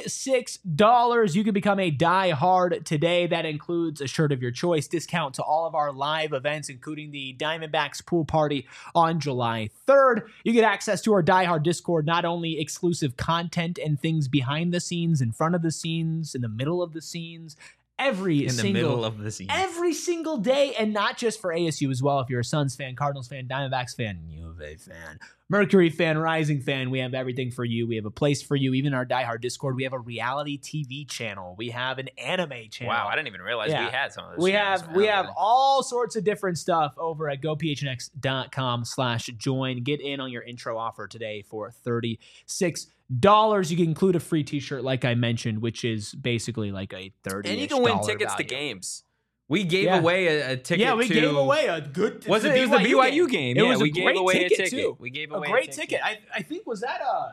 $36. You can become a diehard today. That includes a shirt of your choice, discount to all of our live events, including the Diamondbacks pool party on July 3rd. You get access to our diehard Discord, not only exclusive content and things behind the scenes, in front of the scenes, in the middle of the scenes, every single of the scene. every single day, and not just for ASU as well. If you're a Suns fan, Cardinals fan, Diamondbacks fan, U of A fan, Mercury fan, Rising fan, we have everything for you. We have a place for you. Even our diehard Discord, we have a reality TV channel. We have an anime channel. Wow, I didn't even realize Yeah. we had some of those. We channels. have all sorts of different stuff over at gophnx.com/join. Get in on your intro offer today for $36. You can include a free t-shirt, like I mentioned, which is basically like a $30. And you can win tickets to games. We gave Yeah. away a ticket. Yeah, we to, gave away a good. Was it? It was the BYU game. It Yeah, was we a gave great away a ticket ticket. too. We gave A away great ticket. I think was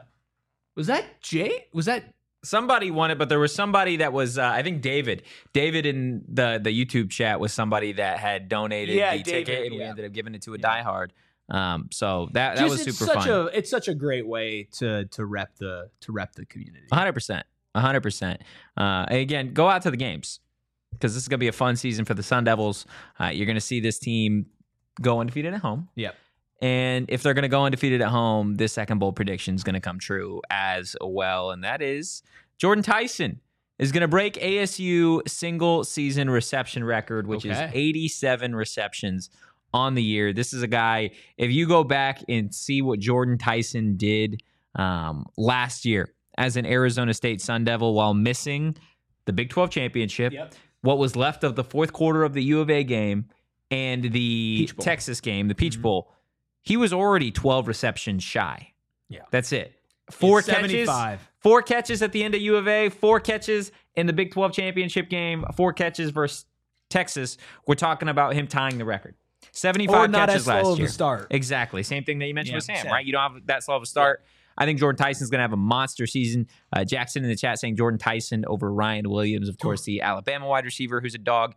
that Jay? Was that somebody won it? But there was somebody that was I think David. David in the YouTube chat was somebody that had donated Yeah, the David, ticket, and we yeah. ended up giving it to a Yeah. diehard. So that Just- was it's super such fun. it's such a great way to rep the community. 100%. 100%. Again, go out to the games because this is going to be a fun season for the Sun Devils. You're going to see this team go undefeated at home. Yep. And if they're going to go undefeated at home, this second bowl prediction is going to come true as well. And that is Jordan Tyson is going to break ASU single season reception record, which is Okay. 87 receptions on the year. This is a guy, if you go back and see what Jordan Tyson did last year as an Arizona State Sun Devil while missing the Big 12 championship, Yep. what was left of the fourth quarter of the U of A game and the Peach Bowl. Texas game, the Peach Mhm. Bowl, he was already 12 receptions shy. Yeah. That's it. Four It's catches. 75. 4 catches at the end of U of A, 4 catches in the Big 12 championship game, 4 catches versus Texas. We're talking about him tying the record. 75 Or not catches as slow last of a year. start. Exactly. Same thing that you mentioned Yeah, with Sam, Sam. right? You don't have that slow of a start. I think Jordan Tyson's going to have a monster season. Jackson in the chat saying Jordan Tyson over Ryan Williams, of course, the Alabama wide receiver who's a dog.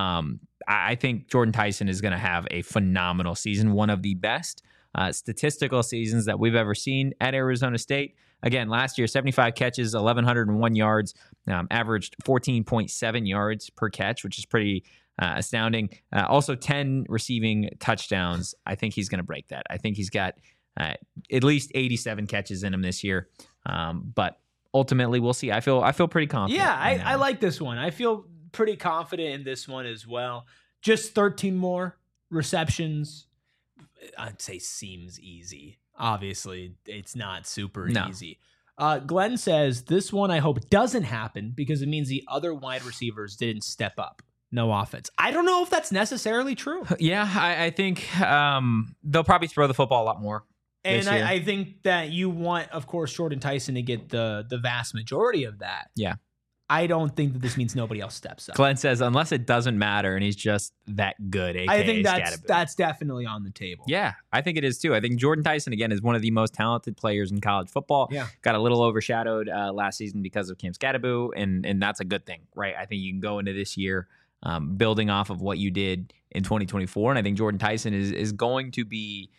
I think Jordan Tyson is going to have a phenomenal season, one of the best statistical seasons that we've ever seen at Arizona State. Again, last year, 75 catches, 1,101 yards, averaged 14.7 yards per catch, which is pretty astounding. Also, 10 receiving touchdowns. I think he's going to break that. I think he's got at least 87 catches in him this year. But ultimately, we'll see. I feel pretty confident. Yeah, in that I one. like this one. I feel pretty confident in this one as well. Just 13 more receptions. I'd say seems easy. Obviously, it's not super No. easy. Glenn says, this one I hope doesn't happen because it means the other wide receivers didn't step up. No offense. I don't know if that's necessarily true. Yeah, I think they'll probably throw the football a lot more. And this year. I think that you want, of course, Jordan Tyson to get the vast majority of that. Yeah. I don't think that this means nobody else steps up. Glenn says, unless it doesn't matter and he's just that good, AKA I think Scatterbo. that's definitely on the table. Yeah, I think it is too. I think Jordan Tyson, again, is one of the most talented players in college football. Yeah. Got a little overshadowed last season because of Cam Scatterbo, and that's a good thing, right? I think you can go into this year building off of what you did in 2024, and I think Jordan Tyson is going to be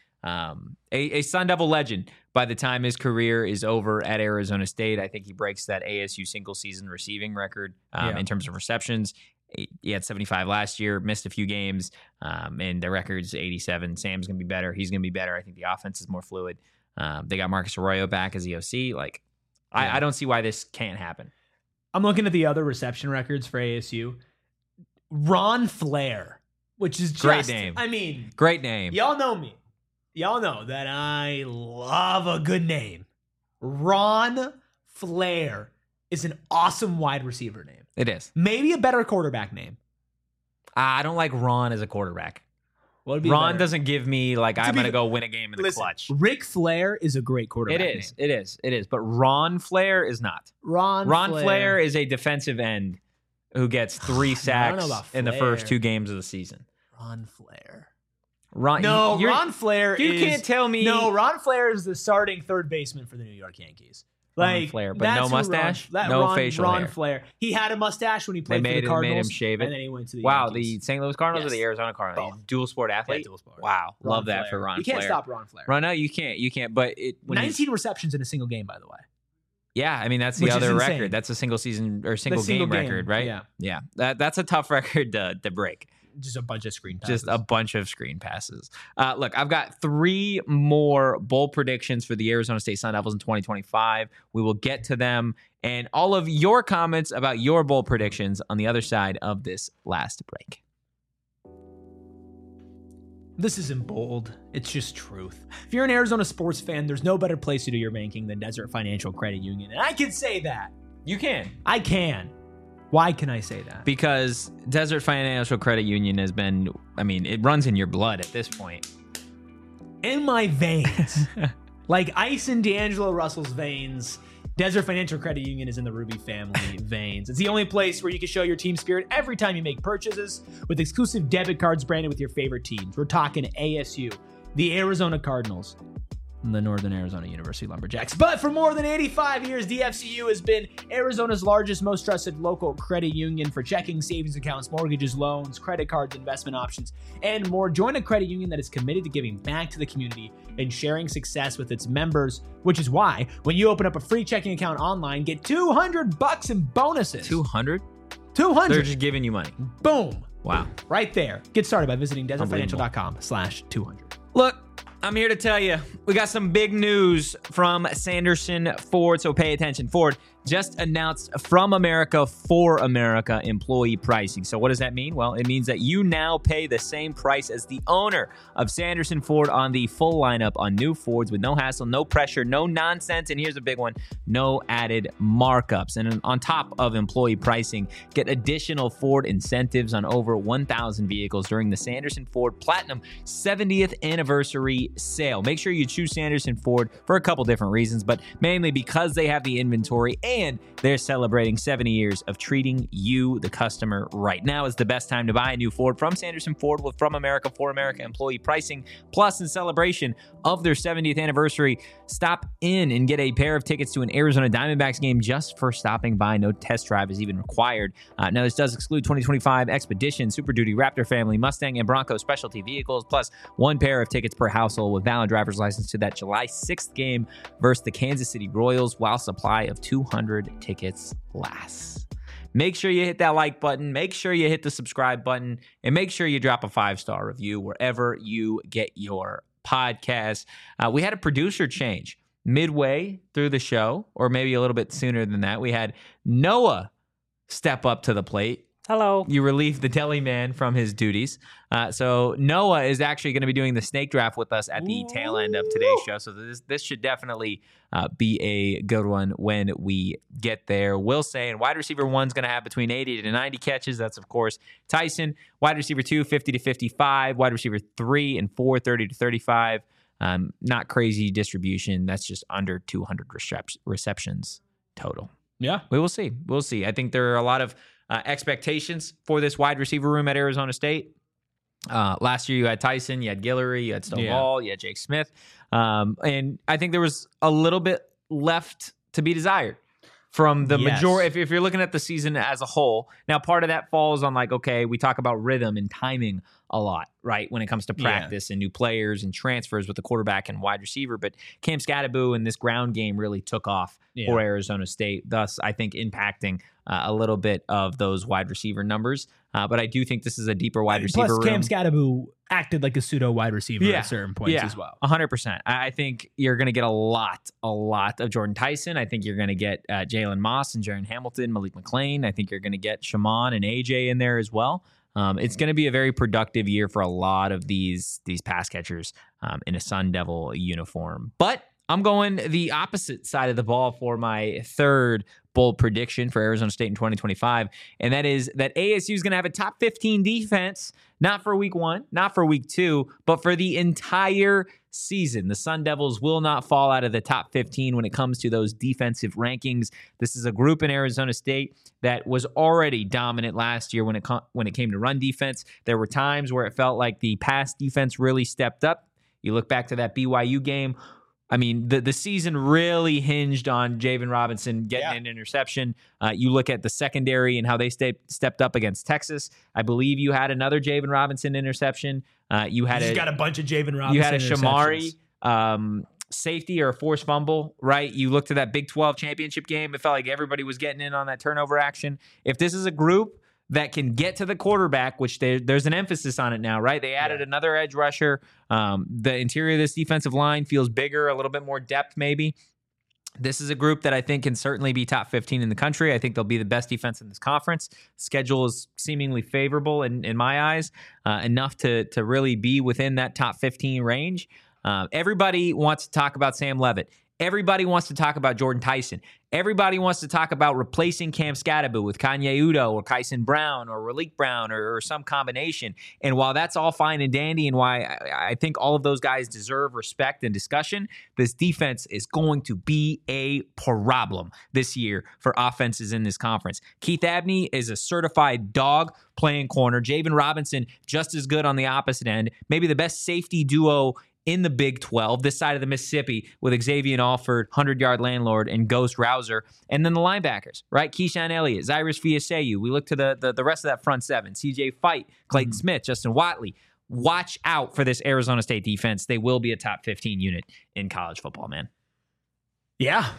a Sun Devil legend by the time his career is over at Arizona State. I think he breaks that ASU single season receiving record in terms of receptions. He had 75 last year, missed a few games, and the record's 87. Sam's going to be better. He's going to be better. I think the offense is more fluid. They got Marcus Arroyo back as the OC. Like, I don't see why this can't happen. I'm looking at the other reception records for ASU. Ron Flair, which is just, Great name. I mean, Great name. y'all know me. Y'all know that I love a good name. Ron Flair is an awesome wide receiver name. It is. Maybe a better quarterback name. I don't like Ron as a quarterback. What would be Ron better? doesn't give me like I'm going to go win a game in the Listen, clutch. Ric Flair is a great quarterback. It is. But Ron Flair is not. Ron Flair is a defensive end who gets 3 sacks in the first 2 games of the season. Ron Flair. Ron Flair you can't tell me. No, Ron Flair is the starting third baseman for the New York Yankees. Ron Flair, but no mustache, facial hair. Ron Flair. He had a mustache when he played for the Cardinals. Made him shave it. And then he went to the Yankees. Yankees. The St. Louis Cardinals or the Arizona Cardinals? Dual sport athlete? Yeah, dual sport. Wow. Love Flair. that for Ron Flair. You can't stop Ron Flair. No, you can't. But 19 receptions in a single game, by the way. Yeah, I mean, that's the other record. That's a single season or single game record, right? Yeah. That's a tough record to break. Just a bunch of screen passes. Look, I've got 3 more bold predictions for the Arizona State Sun Devils in 2025. We will get to them and all of your comments about your bold predictions on the other side of this last break. This isn't bold. It's just truth. If you're an Arizona sports fan, there's no better place to do your banking than Desert Financial Credit Union. And I can say that. You can. I can. Why can I say that? Because Desert Financial Credit Union has been, it runs in your blood at this point. In my veins. Like ice in D'Angelo Russell's veins, Desert Financial Credit Union is in the Ruby family veins. It's the only place where you can show your team spirit every time you make purchases with exclusive debit cards branded with your favorite teams. We're talking ASU, the Arizona Cardinals, and the Northern Arizona University Lumberjacks. But for more than 85 years, DFCU has been Arizona's largest, most trusted local credit union for checking, savings accounts, mortgages, loans, credit cards, investment options, and more. Join a credit union that is committed to giving back to the community and sharing success with its members, which is why when you open up a free checking account online, get $200 in bonuses. 200? 200. They're just giving you money. Boom. Wow. Right there. Get started by visiting desertfinancial.com/200. Look, I'm here to tell you, we got some big news from Sanderson Ford, so pay attention. Ford just announced From America for America employee pricing. So what does that mean? Well, it means that you now pay the same price as the owner of Sanderson Ford on the full lineup on new Fords with no hassle, no pressure, no nonsense, and here's a big one, no added markups. And on top of employee pricing, get additional Ford incentives on over 1,000 vehicles during the Sanderson Ford Platinum 70th anniversary sale. Make sure you choose Sanderson Ford for a couple different reasons, but mainly because they have the inventory and they're celebrating 70 years of treating you, the customer, right. Now is the best time to buy a new Ford from Sanderson Ford with From America for America employee pricing. Plus, in celebration of their 70th anniversary, stop in and get a pair of tickets to an Arizona Diamondbacks game just for stopping by. No test drive is even required. Now, this does exclude 2025 Expedition, Super Duty, Raptor family, Mustang, and Bronco specialty vehicles, plus 1 pair of tickets per household with valid driver's license to that July 6th game versus the Kansas City Royals while supply of 200 tickets lasts. Make sure you hit that like button, make sure you hit the subscribe button, and make sure you drop a 5-star review wherever you get your podcast. We had a producer change midway through the show, or maybe a little bit sooner than that. We had Noah step up to the plate. Hello. You relieved the deli man from his duties. So Noah is actually going to be doing the snake draft with us at the tail end of today's show. So this should definitely be a good one when we get there. Will say, and wide receiver 1's going to have between 80 to 90 catches. That's, of course, Tyson. Wide receiver 2, 50 to 55. Wide receiver 3 and 4, 30 to 35. Not crazy distribution. That's just under 200 receptions total. Yeah. We will see. We'll see. I think there are a lot of expectations for this wide receiver room at Arizona State. Last year you had Tyson, you had Guillory, you had Stonewall, you had Jake Smith. And I think there was a little bit left to be desired from the majority. If you're looking at the season as a whole, now part of that falls on we talk about rhythm and timing a lot, right? When it comes to practice and new players and transfers with the quarterback and wide receiver. But Cam Scatterbo and this ground game really took off for Arizona State, thus I think impacting a little bit of those wide receiver numbers. But I do think this is a deeper wide receiver room. Plus, Cam Scatterbo acted like a pseudo wide receiver at certain points as well. 100%. I think you're going to get a lot of Jordan Tyson. I think you're going to get Jalen Moss and Jaron Hamilton, Malik McClain. I think you're going to get Shaman and AJ in there as well. It's going to be a very productive year for a lot of these pass catchers in a Sun Devil uniform. But I'm going the opposite side of the ball for my third bold prediction for Arizona State in 2025, and that is that ASU is going to have a top 15 defense, not for week 1, not for week 2, but for the entire season. The Sun Devils will not fall out of the top 15 when it comes to those defensive rankings. This is a group in Arizona State that was already dominant last year when it came to run defense. There were times where it felt like the pass defense really stepped up. You look back to that BYU game. I mean, the season really hinged on Javen Robinson getting an interception. You look at the secondary and how they stepped up against Texas. I believe you had another Javen Robinson interception. You got a bunch of Javen Robinson. You had a Shamari safety or a forced fumble, right? You looked at that Big 12 championship game. It felt like everybody was getting in on that turnover action. If this is a group that can get to the quarterback, which there's an emphasis on it now, right? They added another edge rusher. The interior of this defensive line feels bigger, a little bit more depth maybe. This is a group that I think can certainly be top 15 in the country. I think they'll be the best defense in this conference. Schedule is seemingly favorable in my eyes, enough to really be within that top 15 range. Everybody wants to talk about Sam Leavitt. Everybody wants to talk about Jordan Tyson. Everybody wants to talk about replacing Cam Scatterbo with Kanye Udo or Kyson Brown or Raleek Brown or some combination. And while that's all fine and dandy and why I think all of those guys deserve respect and discussion, this defense is going to be a problem this year for offenses in this conference. Keith Abney is a certified dog playing corner. Javen Robinson, just as good on the opposite end. Maybe the best safety duo in the Big 12, this side of the Mississippi, with Xavier Alford, 100-yard landlord, and Ghost Rouser. And then the linebackers, right? Keyshawn Elliott, Zyrus Fiaseyu. We look to the rest of that front seven. CJ Fight, Clayton Smith, Justin Watley. Watch out for this Arizona State defense. They will be a top 15 unit in college football, man. Yeah.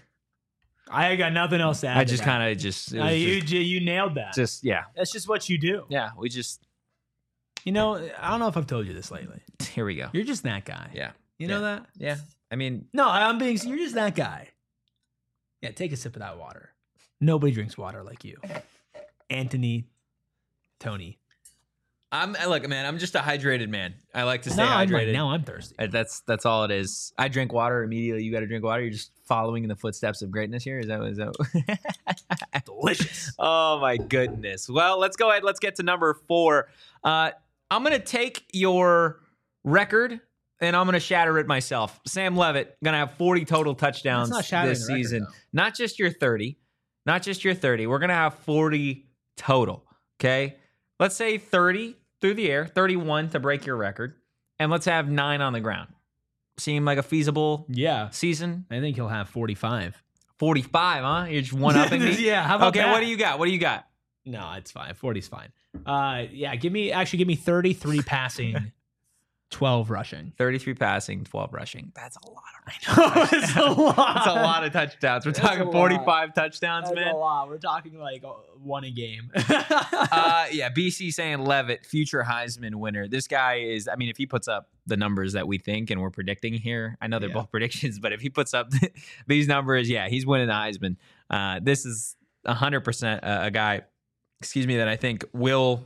I got nothing else to add. I just kind of just... You nailed that. That's just what you do. Yeah, we just... You know, I don't know if I've told you this lately. Here we go. You're just that guy. Yeah. You know that? Yeah. I mean... No, you're just that guy. Yeah, take a sip of that water. Nobody drinks water like you. Anthony, Tony. Look, man, I'm just a hydrated man. I like to stay hydrated. Now I'm thirsty. That's all it is. I drink water immediately. You got to drink water. You're just following in the footsteps of greatness here. Is that delicious? Oh my goodness. Well, let's go ahead. Let's get to number 4. I'm going to take your record and I'm going to shatter it myself. Sam Leavitt going to have 40 total touchdowns this season. Record, not just your 30. We're going to have 40 total. Okay. Let's say 30 through the air, 31 to break your record, and let's have 9 on the ground. Seem like a feasible season? I think he'll have 45. 45, huh? You're just one-upping me? Yeah, how about that? Okay, what do you got? No, it's fine. 40's fine. Give me 33 passing, 12 rushing. 33 passing, 12 rushing. That's a lot of It's a lot. That's a lot of touchdowns. We're talking 45 touchdowns, That's man. a lot. We're talking like 1 a game. BC saying Leavitt, future Heisman winner. This guy is, I mean, if he puts up the numbers that we think and we're predicting here, I know they're both predictions, but if he puts up these numbers, he's winning the Heisman. This is 100% a guy, that I think will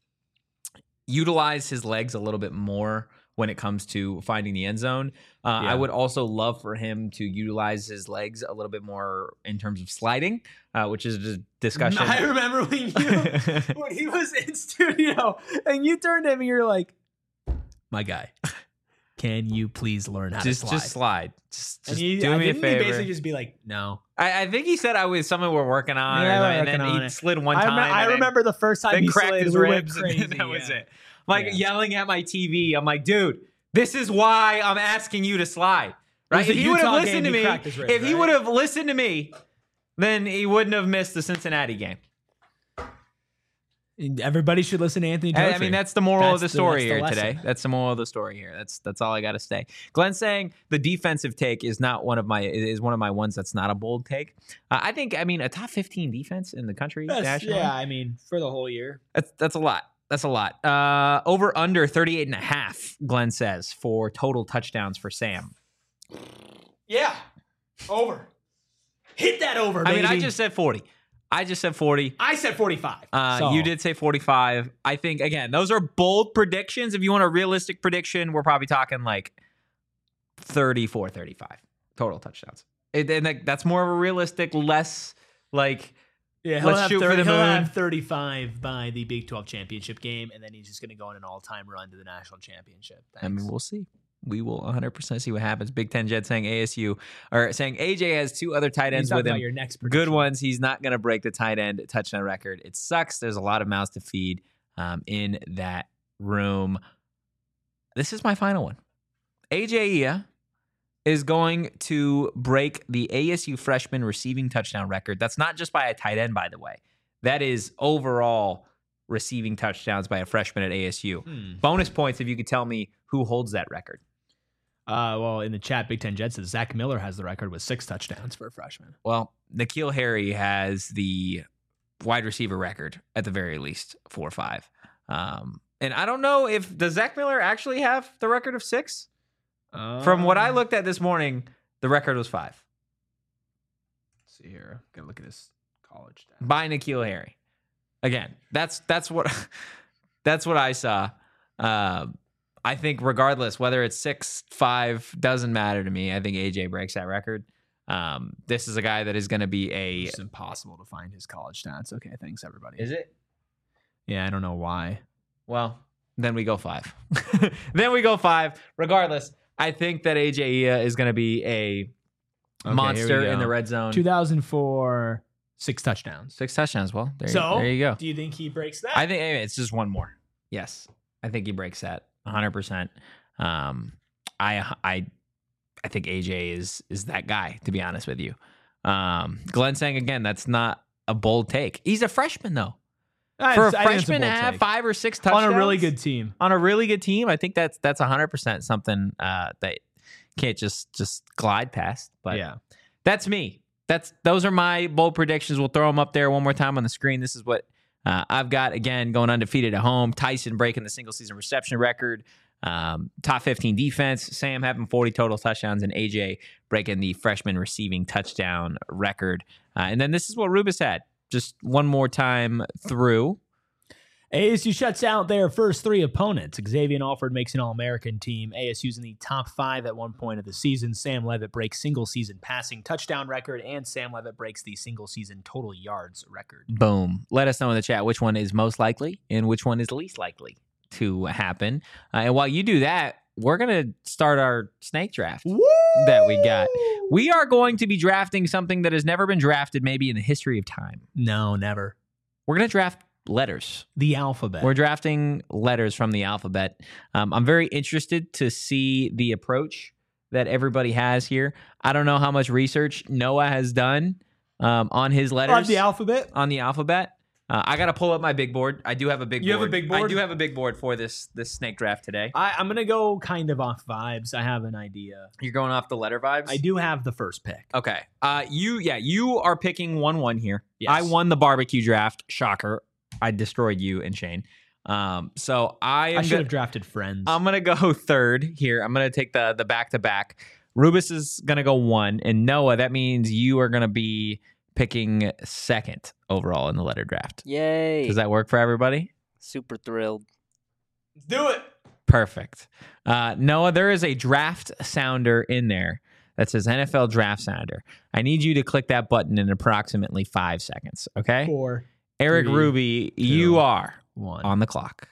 utilize his legs a little bit more when it comes to finding the end zone. I would also love for him to utilize his legs a little bit more in terms of sliding, which is a discussion. I remember when he was in studio and you turned to him and you're like, my guy, can you please learn how to slide? Just slide. Just do me a favor. He basically just be like, no. I think he said I was something we're working on. Yeah, and then he slid one time. I remember the first time he cracked slid, his ribs. And that was it. Like yelling at my TV. I'm like, dude, this is why I'm asking you to slide. Right? If he would have listened to me, then he wouldn't have missed the Cincinnati game. Everybody should listen to Anthony Dautry. I mean, that's the moral of the story here today. That's the moral of the story here. That's all I got to say. Glenn saying the defensive take is one of my ones that's not a bold take. I think a top 15 defense in the country nationally. Yeah, for the whole year. That's a lot. That's a lot. Over under 38.5, Glenn says, for total touchdowns for Sam. Yeah. Over. Hit that over, baby. I just said 40. I said 45. You did say 45. I think, again, those are bold predictions. If you want a realistic prediction, we're probably talking like 34, 35. total touchdowns. And that's more of a realistic, less like Yeah, let's shoot for the he'll moon. have 35 by the Big 12 championship game, and then he's just going to go on an all-time run to the national championship. I mean, we'll see. We will 100% see what happens. Big Ten Jet saying ASU or saying AJ has 2 other tight ends with him. Your next Good prediction. ones. He's not going to break the tight end touchdown record. It sucks. There's a lot of mouths to feed in that room. This is my final one. AJ Ia is going to break the ASU freshman receiving touchdown record. That's not just by a tight end, by the way. That is overall receiving touchdowns by a freshman at ASU. Bonus points if you could tell me who holds that record. Well, in the chat, Big Ten Jet says Zach Miller has the record with 6 touchdowns for a freshman. Well, N'Keal Harry has the wide receiver record at the very least, 4 or 5. And I don't know does Zach Miller actually have the record of 6? From what I looked at this morning, the record was 5. Let's see here. Gotta look at his college stats. By N'Keal Harry. Again, that's what that's what I saw. I think regardless, whether it's 6, 5, doesn't matter to me. I think AJ breaks that record. This is a guy that is going to be It's impossible to find his college stats. Okay, thanks everybody. Is it? Yeah, I don't know why. Well, then we go 5. Then we go 5. Regardless, I think that AJ Ia is going to be a monster in the red zone. 2004, 6 touchdowns. 6 touchdowns. Well, there you go. Do you think he breaks that? I think it's just one more. Yes, I think he breaks that 100%. I think AJ is that guy, to be honest with you. Glenn saying again, that's not a bold take. He's a freshman though. For a freshman to have 5 or 6 touchdowns on a really good team. On a really good team, I think that's 100% something that can't just glide past. But yeah, that's me. Those are my bold predictions. We'll throw them up there one more time on the screen. This is what I've got, again, going undefeated at home. Tyson breaking the single-season reception record. Top 15 defense. Sam having 40 total touchdowns. And AJ breaking the freshman receiving touchdown record. And then this is what Rubus had. Just one more time through. ASU shuts out their first 3 opponents. Xavier Alford makes an All-American team. ASU's in the top 5 at one point of the season. Sam Levitt breaks single-season passing touchdown record, and Sam Levitt breaks the single-season total yards record. Boom. Let us know in the chat which one is most likely and which one is least likely to happen. And while you do that, we're going to start our snake draft that we got. We are going to be drafting something that has never been drafted maybe in the history of time. No, never. We're going to draft letters. The alphabet. We're drafting letters from the alphabet. I'm very interested to see the approach that everybody has here. I don't know how much research Noah has done on his letters. On the alphabet? On the alphabet. I got to pull up my big board. I do have a big board. You have a big board? I do have a big board for this snake draft today. I'm going to go kind of off vibes. I have an idea. You're going off the letter vibes? I do have the first pick. Okay. You are picking 1-1 here. Yes. I won the barbecue draft. Shocker. I destroyed you and Shane. So I should have drafted Friends. I'm going to go third here. I'm going to take the back-to-back. Rubus is going to go 1. And Noah, that means you are going to be picking second overall in the letter draft. Yay. Does that work for everybody? Super thrilled. Let's do it. Perfect. Noah, there is a draft sounder in there that says NFL draft sounder. I need you to click that button in approximately 5 seconds, okay? 4, Eric 3, Ruby, 2, you are 1 on the clock.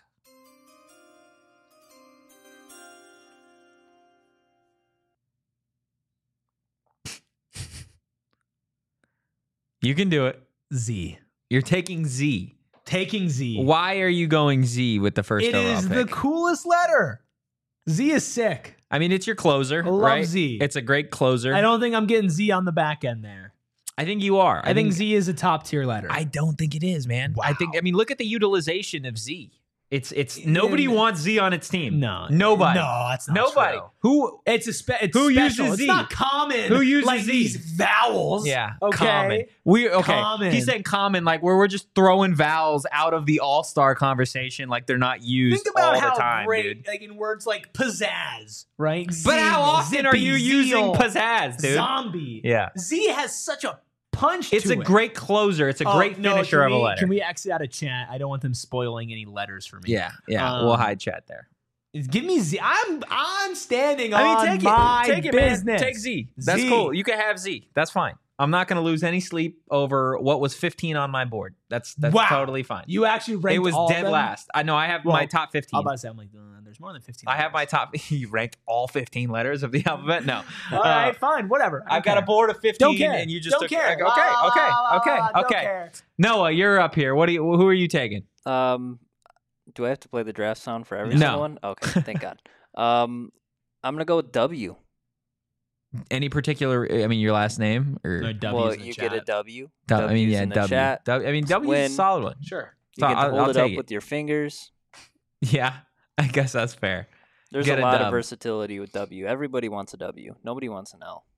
You can do it. Z. You're taking Z. Taking Z. Why are you going Z with the first It overall is pick? the coolest letter. Z is sick. I mean, it's your closer, I love right? Z. It's a great closer. I don't think I'm getting Z on the back end there. I think you are. I think Z is a top tier letter. I don't think it is, man. Wow. I mean, look at the utilization of Z. It's nobody wants Z on its team. No. Nobody. No, that's not Nobody. true. Who? It's Who special. uses Z? It's not common. Who uses like Z? these vowels? Yeah. Okay. Common. Common. He's saying common, like where we're just throwing vowels out of the all-star conversation, like they're not used Think about all how the time, great, dude. like in words like pizzazz, right? But Zing, how often are zippy, you using zeal, pizzazz, dude? Zombie. Yeah. Z has such a punch It's to a it. great closer. It's a great finisher of a letter. Can we exit out of chat? I don't want them spoiling any letters for me. Yeah. We'll hide chat there. Give me Z. I'm standing I on mean, my take it, business. man. Take Z. That's Z. cool. You can have Z. That's fine. I'm not going to lose any sleep over what was 15 on my board. That's Wow. totally fine. You actually ranked It was all of dead them? last. I know I have Well, my top 15. I'm about to say, I'm like, there's more than 15. I have my top. You ranked all 15 letters of the alphabet? No. All right, fine, whatever. I've got a board of 15, Don't care. and you just don't took. care. Okay, Don't okay. care. Noah, you're up here. Who are you taking? Do I have to play the draft sound for every No. single one? Okay, thank God. I'm gonna go with W. Any particular? I mean, your last name or? No, W's Well, in the you chat. get a W. I mean, yeah, in the W. chat. I mean, W is a Win. solid one. Sure. You get to I'll hold it up take it. with your fingers. Yeah, I guess that's fair. There's Get a a lot dub. of versatility with W. Everybody wants a W. Nobody wants an L.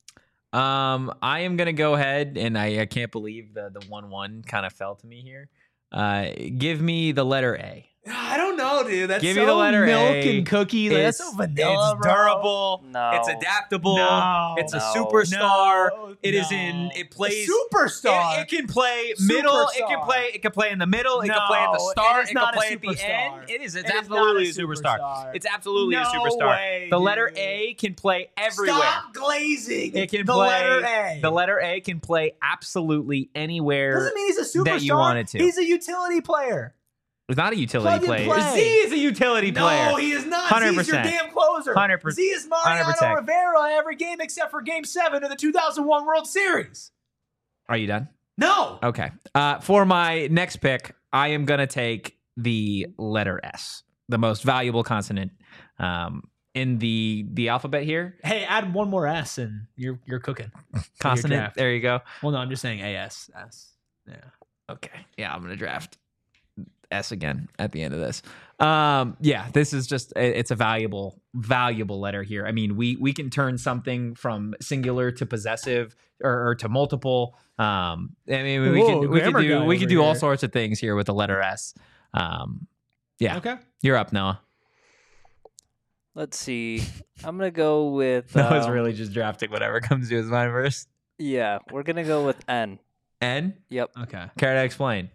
I am gonna go ahead, and I can't believe the 1-1 kind of fell to me here. Give me the letter A. I don't know, dude. That's Give so me the letter milk A. and cookie. Like, that's so vanilla, It's bro. durable. No. It's adaptable. No. It's a No. superstar. No, It is no. in. It plays. A superstar. It can play middle. It can Superstar. play. It can play in the middle. It can play at the No, start. it is It not can a play at the superstar. end. It is. It's It is absolutely not a superstar. superstar. It's absolutely a No superstar. way, The letter dude. A can play everywhere. Stop glazing. It can the play. letter A. The letter A can play absolutely anywhere. doesn't mean he's a superstar. that you want it to. He's a utility player. It's not a utility Plug and player. play. Z is a utility player. No, he is not. Z is your 100%. damn closer. 100%. Z is Mariano 100%. Rivera every game except for Game 7 of the 2001 World Series. Are you done? No. Okay. For my next pick, I am gonna take the letter S, the most valuable consonant in the alphabet here. Hey, add one more S and you're cooking. Consonant. draft. There you go. Well, no, I'm just saying AS. S. Yeah. Okay. Yeah, I'm gonna draft S again at the end of this. Yeah, this is just it's a valuable letter here. I mean, we can turn something from singular to possessive or to multiple. I mean, we Whoa, can grammar guy we can over do all here. sorts of things here with the letter S. Yeah. Okay. You're up, Noah. Let's see. I'm gonna go with. Noah's really just drafting whatever comes to his mind first. Yeah, we're gonna go with N. N. Yep. Okay. Care to explain?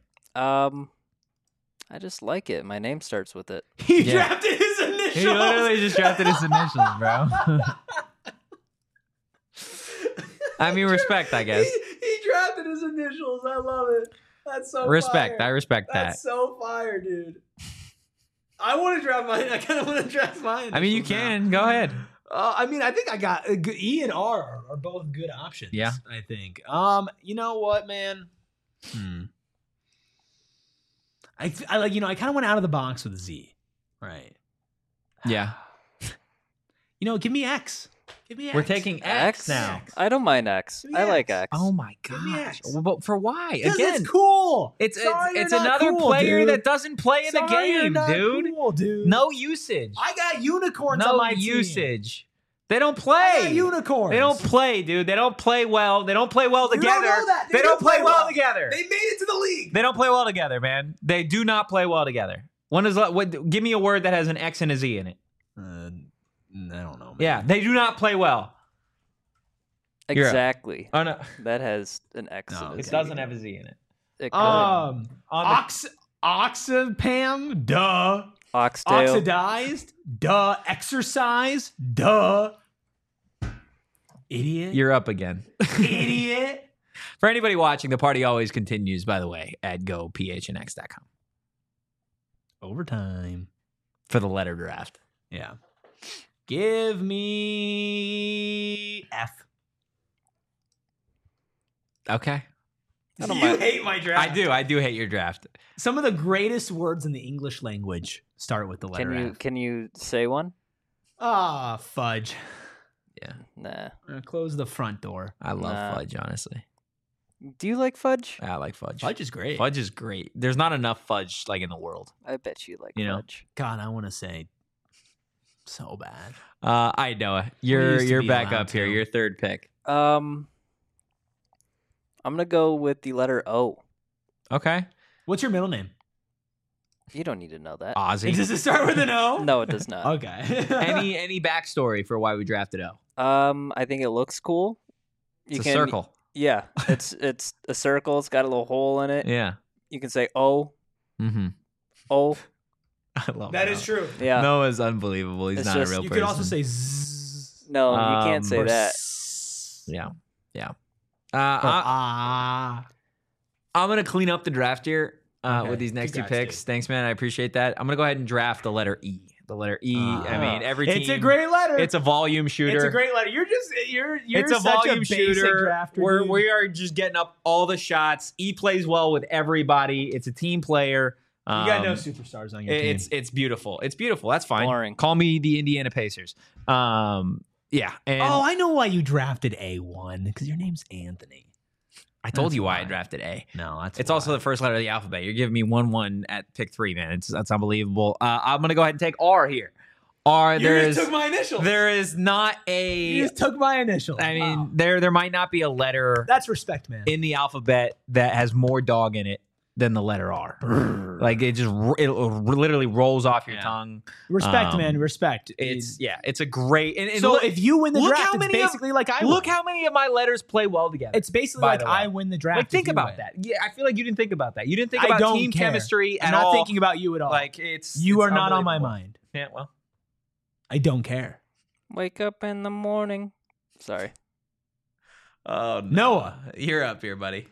I just like it. My name starts with it. He Yeah. drafted his initials. He literally just drafted his initials, bro. I mean, respect, I guess. He drafted his initials. I love it. That's so Respect. I fire. respect that. That's so fire, dude. I want to draft mine. I kind of want to draft mine. I mean, you can. Go ahead. I mean, I think I got E and R are both good options. Yeah. I think. You know what, man? I like. I kind of went out of the box with Z. Right. Yeah. Give me X. Give me X. We're taking X now. I don't mind X. Give me I like X. X. Oh my Give me gosh. X. Well, but for why? Because Again, it's cool. it's Sorry, it's you're not another cool, player dude. that doesn't play in the Sorry, you're game, not dude. Cool, dude. No usage. I got unicorns on No my team. usage. They don't I play. got unicorns. They don't play, dude. They don't play well. They don't play well You together. don't know that. They don't play well together. They made it to the league. They don't play well together, man. They do not play well together. Give me a word that has an X and a Z in it. I don't know. Man. Yeah, they do not play well. You're up. Exactly. Oh no, That has an X. No, in it it. doesn't have a Z in it. It could. On the- Oxapam, duh. Oxtail. Oxidized, duh. Exercise, duh. Idiot. You're up again. idiot. For anybody watching, the party always continues, by the way, at gophnx.com Overtime. for the letter draft. Yeah. Give me F. Okay. I don't You mind. hate my draft. I do hate your draft. Some of the greatest words in the English language start with the letter F. Can you say one? Ah, fudge. Nah. Close the front door. I love Nah. fudge, honestly. Do you like fudge? I like fudge. Fudge is great. Fudge is great. There's not enough fudge like in the world. I bet you like You know. fudge. God, I want to say so bad. I Noah. You're used to be back allowed up here. to. Your third pick. I'm gonna go with the letter O. Okay. What's your middle name? You don't need to know that. Ozzy. Does it start with an O? No, it does not. Okay. any backstory for why we drafted O? I think it looks cool. It's a circle. Yeah, it's a circle. It's got a little hole in it. Yeah. You can say O, Mm-hmm. O, I love That Noah. is true. Yeah. Noah's unbelievable. He's It's not just- a real You person. could also say zzz. No, you can't say or that. s- Yeah. or I'm gonna clean up the draft here Okay. with these next two Congrats, picks. dude. Thanks, man. I appreciate that. I'm gonna go ahead and draft the letter E. The letter E. I mean, every team. It's a great letter. It's a volume shooter. It's a great letter. You're It's a such volume basic shooter drafter, where dude. we are just getting up all the shots. E plays well with everybody. It's a team player. You got no superstars on your team. It's beautiful. It's beautiful. That's fine. Boring. Call me the Indiana Pacers. Yeah. And I know why you drafted A1 because your name's Anthony. I told that's you why I why. drafted A. No, that's It's also the first letter of the alphabet. You're giving me 1-1 at pick 3, man. That's unbelievable. I'm gonna go ahead and take R here. R. my initials. There is not You a. just took my initials. I mean, Wow. there might not be a letter That's respect, man. in the alphabet that has more dog in it than the letter R. Like it literally rolls off your Yeah. tongue. Respect, man. Respect. It's a great. And so look, if you win the look draft, how it's many of- basically like I look win. how many of my letters play well together. It's basically by like the way. I win the draft. Like think if you about win. that. Yeah, I feel like you didn't think about that. You didn't think I about don't team care. chemistry I'm at not all. thinking about you at all. Like it's you it's are not on my unbelievable. mind. Yeah, well, I don't care. Wake up in the morning. Sorry. oh Noah. you're up here, buddy.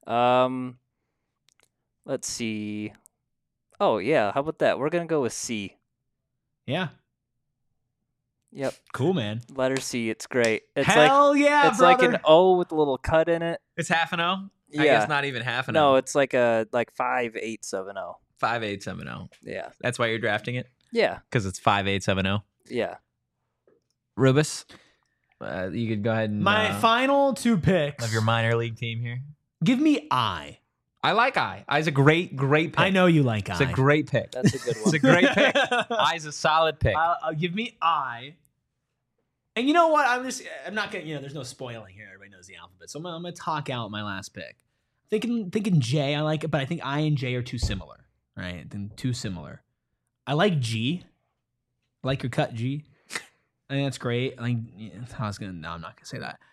Let's see. Oh yeah, how about that? We're gonna go with C. Yeah. Yep, Cool, man. letter C. It's great. It's Hell yeah, it's brother. like an O with a little cut in it. It's half an O. I Yeah. guess not even half an No, O. it's like a 5-8-7-0. 5-8-7-0. Yeah. That's why you're drafting it Yeah. because it's 5-8-7-0. Yeah. Rubus, you could go ahead and My final two picks. of your minor league team here. Give me I. I like I. I's a great pick. I know you like It's I. a great pick. That's a good It's one. a great pick. I's a solid pick. I'll give me I. And you know what? I'm not gonna. There's no spoiling here. Everybody knows the alphabet, so I'm gonna talk out my last pick. Thinking J. I like it, but I think I and J are too similar. Right? Then too similar. I like G. I like your cut, G. I think that's great. I think I was gonna. No, I'm not gonna say that.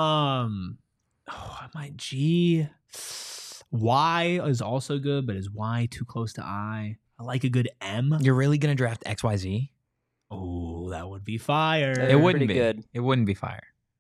My G. Y is also good, but is Y too close to I? I like a good M. You're really gonna draft XYZ? Oh, that would be fire. That's It wouldn't pretty be. good. It wouldn't be fire.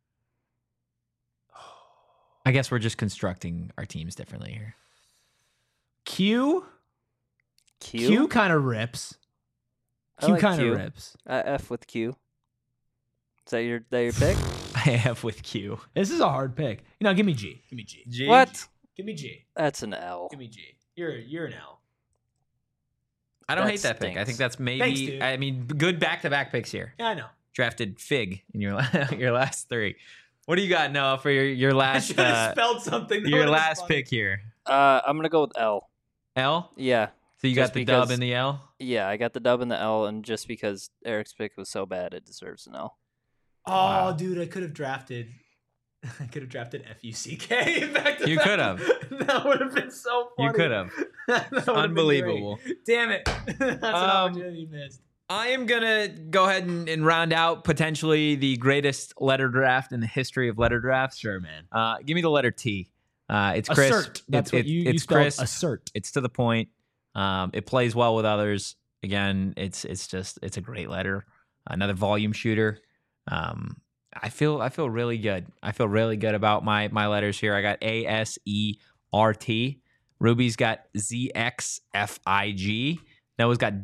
I guess we're just constructing our teams differently here. Q. Q. Q kind of rips. I Q like kind of Q. rips. F with Q. Is that your pick? I have with Q. This is a hard pick. Give me G. Give me G. G? What? Give me G. That's an L. Give me G. You're an L. I don't That hate that pick. I stinks. think that's maybe. Thanks, dude. I mean, good back-to-back picks here. Yeah, I know. Drafted Fig in your your last 3. What do you got, Noah, for your I last should have spelled something. That your would've been last funny. pick here? I'm gonna go with L. L. Yeah. So you Just got the dub because- and the L. Yeah, I got the dub and the L, and just because Eric's pick was so bad, it deserves an L. Oh, Wow. dude, I could have drafted. I could have drafted FUCK back to You back. could have. That would have been so funny. You could have. That would've been Unbelievable. great. Damn it. That's an opportunity you missed. I am gonna go ahead and round out potentially the greatest letter draft in the history of letter drafts. Sure, man. Give me the letter T. It's crisp. Assert. That's what you it's spelled. crisp. Assert. It's to the point. It plays well with others. Again, it's a great letter. Another volume shooter. I feel really good. I feel really good about my letters here. I got ASERT. Ruby's got ZXFIG. Noah's got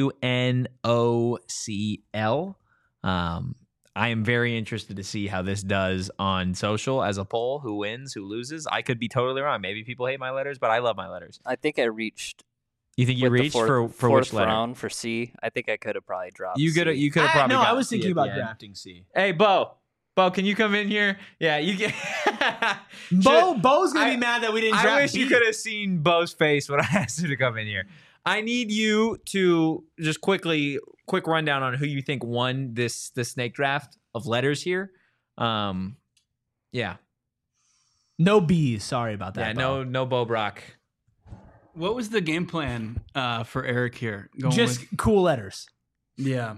WNOCL. I am very interested to see how this does on social as a poll. Who wins? Who loses? I could be totally wrong. Maybe people hate my letters, but I love my letters. I think I reached. You think you with the reached fourth, for fourth which letter? round for C. I think I could have probably dropped. You could C. have probably. No, I got was C thinking at the about end. drafting C. Hey, Bo, can you come in here? Yeah, you get. Bo's gonna I- be mad that we didn't draft I wish you B. could have seen Bo's face when I asked him to come in here. I need you to just quick rundown on who you think won this snake draft of letters here. Yeah, No B's. Sorry about that. yeah, Bo. no Bo Brock. What was the game plan for Eric here? Going Just with, cool letters. yeah.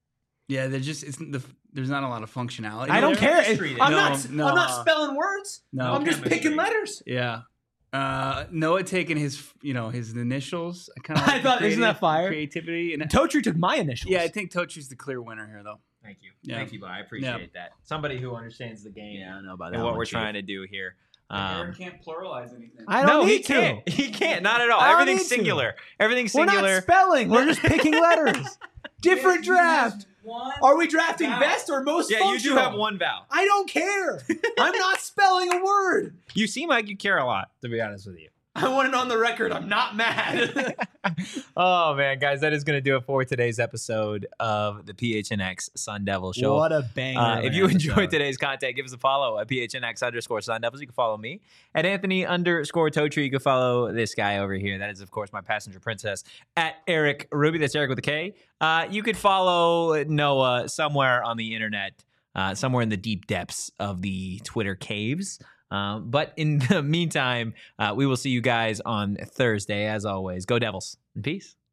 There's not a lot of functionality. I don't there. care. No, I'm not no. spelling words. No. I'm just picking letters. Yeah. Noah taking his initials. I kind of I thought, isn't that fire? Creativity. And Totri took my initials. yeah, I think Tochi's the clear winner here, though. Thank you. Yeah. Thank you, Bob. I appreciate that. Somebody who understands the game I don't know about that. and what one, we're Chief. trying to do here. Aaron can't pluralize anything. I don't No, he need to. can't. He can't. Not at all. I don't Everything's need to. singular. Everything's We're singular. not spelling. We're just picking letters. Different draft. Are we drafting vowel. best or most Yeah, functional? you do have one vowel. I don't care. I'm not spelling a word. You seem like you care a lot, to be honest with you. I want it on the record. I'm not mad. Oh, man, guys, that is going to do it for today's episode of the PHNX Sun Devil Show. What a banger. of If an you enjoyed episode. today's content, give us a follow at PHNX_Sun Devils. You can follow me at Anthony_Totri. You can follow this guy over here. That is, of course, my passenger princess at Eric Ruby. That's Eric with a K. You could follow Noah somewhere on the internet, somewhere in the deep depths of the Twitter caves. But in the meantime, we will see you guys on Thursday. As always, go Devils and peace.